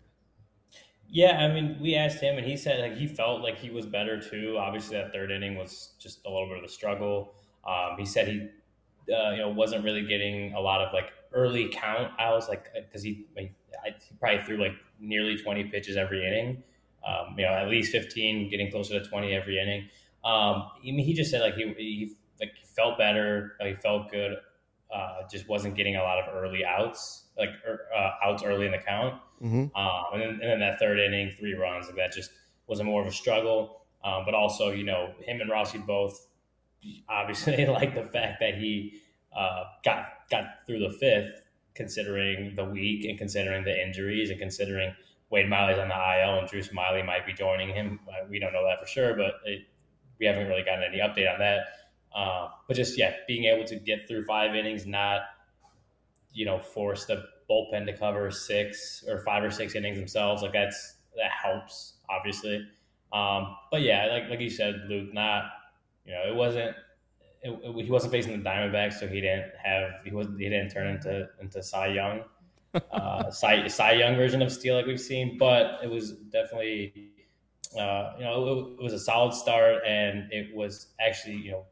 Yeah, I mean, we asked him, and he said like he felt like he was better too. Obviously, that third inning was just a little bit of a struggle. Um, he said he, uh, you know, wasn't really getting a lot of like early count outs, like because he, like, I, he probably threw like nearly twenty pitches every inning. Um, you know, at least fifteen, getting closer to twenty every inning. Um, I mean, he just said like he, he like he felt better, like he felt good. Uh, just wasn't getting a lot of early outs, like uh, outs early in the count. Mm-hmm. Um, and then and then that third inning, three runs, like that just was a more of a struggle. Um, but also, you know, him and Rossi both obviously like the fact that he uh, got got through the fifth, considering the week and considering the injuries and considering Wade Miley's on the I L and Drew Smiley might be joining him. We don't know that for sure, but it, we haven't really gotten any update on that. Uh, but just, yeah, being able to get through five innings, not, you know, force the bullpen to cover six or five or six innings themselves. Like that's, that helps obviously. Um, but yeah, like, like you said, Luke, not, you know, it wasn't, it, it, he wasn't facing the Diamondbacks, so he didn't have, he wasn't, he didn't turn into, into Cy Young. uh, Cy, Cy Young version of Steele like we've seen, but it was definitely, uh, you know, it, it was a solid start, and it was actually, you know,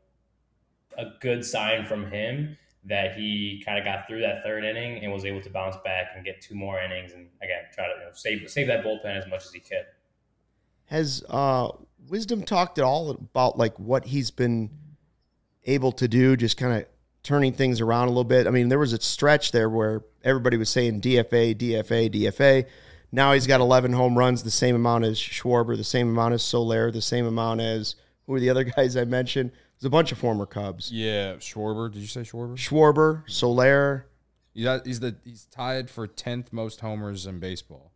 a good sign from him that he kind of got through that third inning and was able to bounce back and get two more innings and again try to, you know, save save that bullpen as much as he could. Has uh, Wisdom talked at all about like what he's been able to do, just kind of turning things around a little bit? I mean, there was a stretch there where everybody was saying D F A, D F A, D F A. Now he's got eleven home runs, the same amount as Schwarber, the same amount as Soler, the same amount as, who were the other guys I mentioned? There's a bunch of former Cubs. Yeah, Schwarber. Did you say Schwarber? Schwarber, Soler. Yeah, he's the he's tied for tenth most homers in baseball.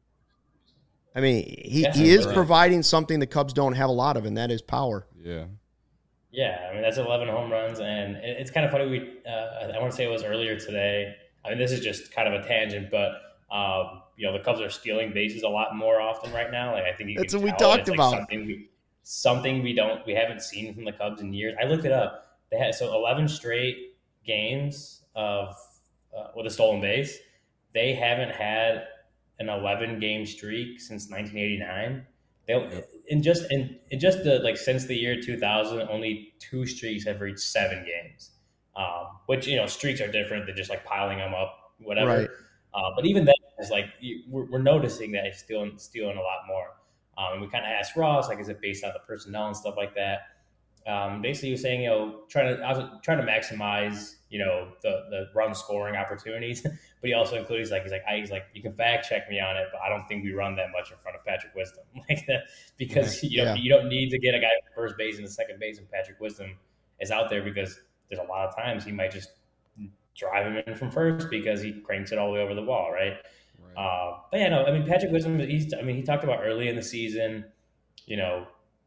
I mean, he, Yeah, he is right. providing something the Cubs don't have a lot of, and that is power. Yeah. Yeah, I mean that's eleven home runs, and it, it's kind of funny. We uh, I want to say it was earlier today. I mean, this is just kind of a tangent, but um, you know, the Cubs are stealing bases a lot more often right now. Like I think you That's can what we tell talked it's like about. Something we, something we don't we haven't seen from the Cubs in years. I looked it up. They had so eleven straight games of uh, with a stolen base. They haven't had an eleven game streak since nineteen eighty-nine. They in just in, in just the like since the year two thousand, only two streaks have reached seven games. Um, which, you know, streaks are different than just like piling them up, whatever. Right. Uh, but even then, it's like you, we're, we're noticing that he's stealing stealing a lot more. Um, and we kind of asked Ross, like, is it based on the personnel and stuff like that? Um, basically, he was saying, you know, trying to I was trying to maximize, you know, the the run scoring opportunities. But he also included, he's like, he's like, I, he's like, you can fact check me on it, but I don't think we run that much in front of Patrick Wisdom, like that, because you know Yeah. you don't need to get a guy from first base and the second base, and Patrick Wisdom is out there because there's a lot of times he might just drive him in from first because he cranks it all the way over the wall, right? Right. Uh, but yeah, no, I mean Patrick Wisdom, he's, I mean he talked about early in the season, you know,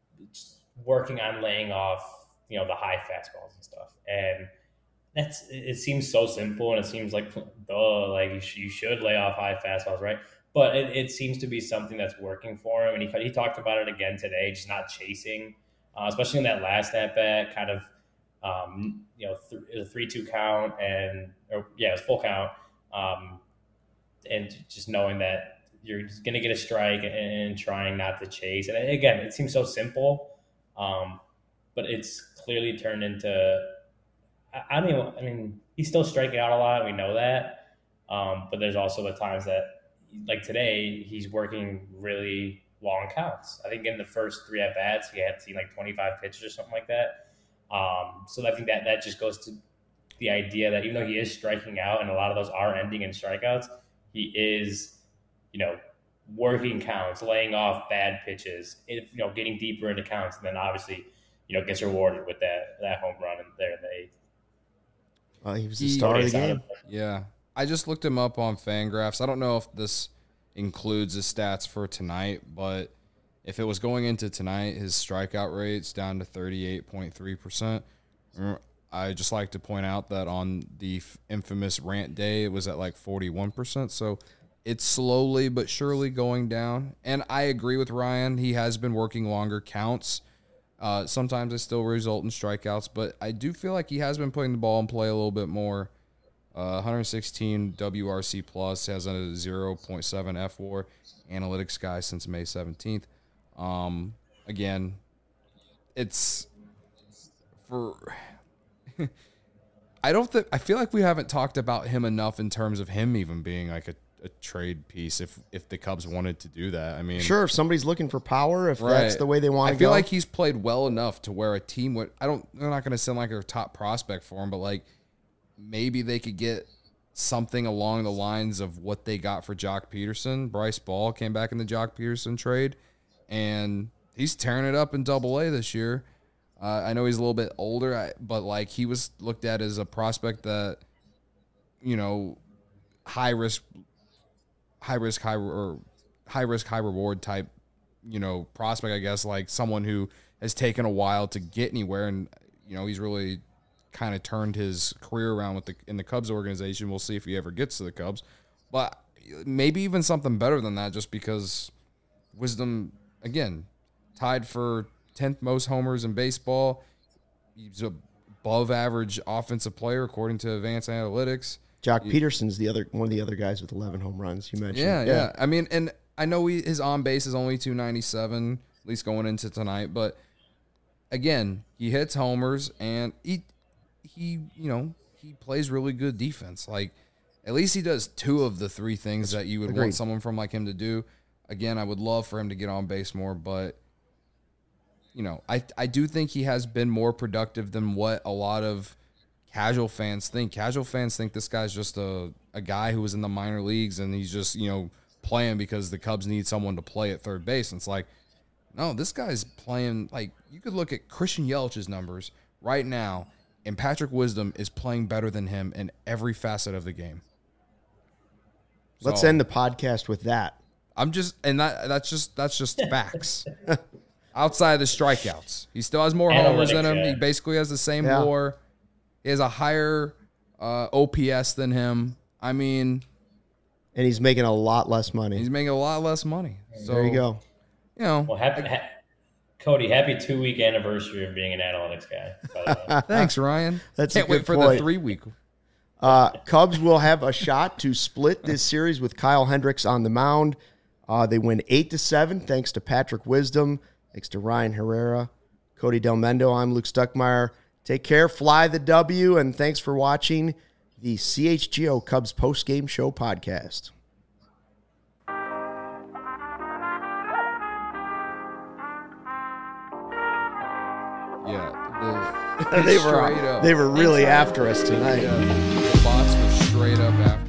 working on laying off, you know, the high fastballs and stuff, and that's, it seems so simple and it seems like, duh, like you, sh- you should lay off high fastballs, right? But it, it seems to be something that's working for him, and he he talked about it again today, just not chasing, uh, especially in that last at bat, kind of. Um, you know, th- a three two count and, or, yeah, it was full count. Um, and just knowing that you're going to get a strike and, and trying not to chase. And again, it seems so simple, um, but it's clearly turned into, I, I don't even, I mean, he's still striking out a lot. We know that. Um, but there's also the times that, like today, he's working really long counts. I think in the first three at bats, he had seen like twenty-five pitches or something like that. Um, so I think that that just goes to the idea that even though he is striking out and a lot of those are ending in strikeouts, he is, you know, working counts, laying off bad pitches, if, you know, getting deeper into counts, and then obviously, you know, gets rewarded with that that home run in there in the eighth. Well, he was the He- star of the game. Yeah. I just looked him up on Fangraphs. I don't know if this includes his stats for tonight, but if it was going into tonight, his strikeout rate's down to thirty-eight point three percent. I just like to point out that on the f- infamous rant day, it was at like forty-one percent. So it's slowly but surely going down. And I agree with Ryan. He has been working longer counts. Uh, sometimes they still result in strikeouts, but I do feel like he has been putting the ball in play a little bit more. Uh, one sixteen W R C plus, has a zero point seven F W A R analytics guy since May seventeenth. Um, again, it's for. I don't think I feel like we haven't talked about him enough in terms of him even being like a, a trade piece. If if the Cubs wanted to do that, I mean, Sure, if somebody's looking for power, if Right. that's the way they want I to go. feel like he's played well enough to where a team would. I don't. They're not going to sound like a top prospect for him, but like maybe they could get something along the lines of what they got for Jock Peterson. Bryce Ball came back in the Jock Peterson trade, and he's tearing it up in Double A this year. Uh, I know he's a little bit older, I- but like he was looked at as a prospect that, you know, high risk, high risk, high or high risk, high reward type, you know, prospect. I guess like someone who has taken a while to get anywhere, and you know he's really kind of turned his career around with the in the Cubs organization. We'll see if he ever gets to the Cubs, but maybe even something better than that, just because Wisdom again tied for tenth most homers in baseball. He's a above average offensive player according to Advanced Analytics. Jock Peterson's the other one of the other guys with eleven home runs you mentioned. Yeah, yeah. I mean, and I know he, his on base is only two ninety-seven, at least going into tonight. But again, he hits homers, and he he you know he plays really good defense. Like at least he does two of the three things that you would Agreed. want someone from like him to do. Again, I would love for him to get on base more, but you know, I I do think he has been more productive than what a lot of casual fans think. Casual fans think this guy's just a, a guy who was in the minor leagues and he's just, you know, playing because the Cubs need someone to play at third base. And it's like, no, this guy's playing. Like, you could look at Christian Yelich's numbers right now, and Patrick Wisdom is playing better than him in every facet of the game. Let's So, end the podcast with that. I'm just, and that that's just that's just facts. Outside of the strikeouts, he still has more homers than him. Analytics, yeah. He basically has the same Yeah. W A R. He has a higher uh, O P S than him. I mean, And he's making a lot less money. he's making a lot less money. So there you go. You know, Well, happy, ha- Cody, happy two week anniversary of being an analytics guy. By the way. thanks, Ryan. That's a Can't wait good for point. the three week. Uh, Cubs will have a shot to split this series with Kyle Hendricks on the mound. Uh, they win eight to seven thanks to Patrick Wisdom, thanks to Ryan Herrera, Cody Del Mendo. I'm Luke Stuckmeyer. Take care, fly the W, and thanks for watching the C H G O Cubs postgame show podcast. Yeah, the, They were straight up. they were really Thanks, Ryan. after us tonight. Yeah, the bots were straight up after.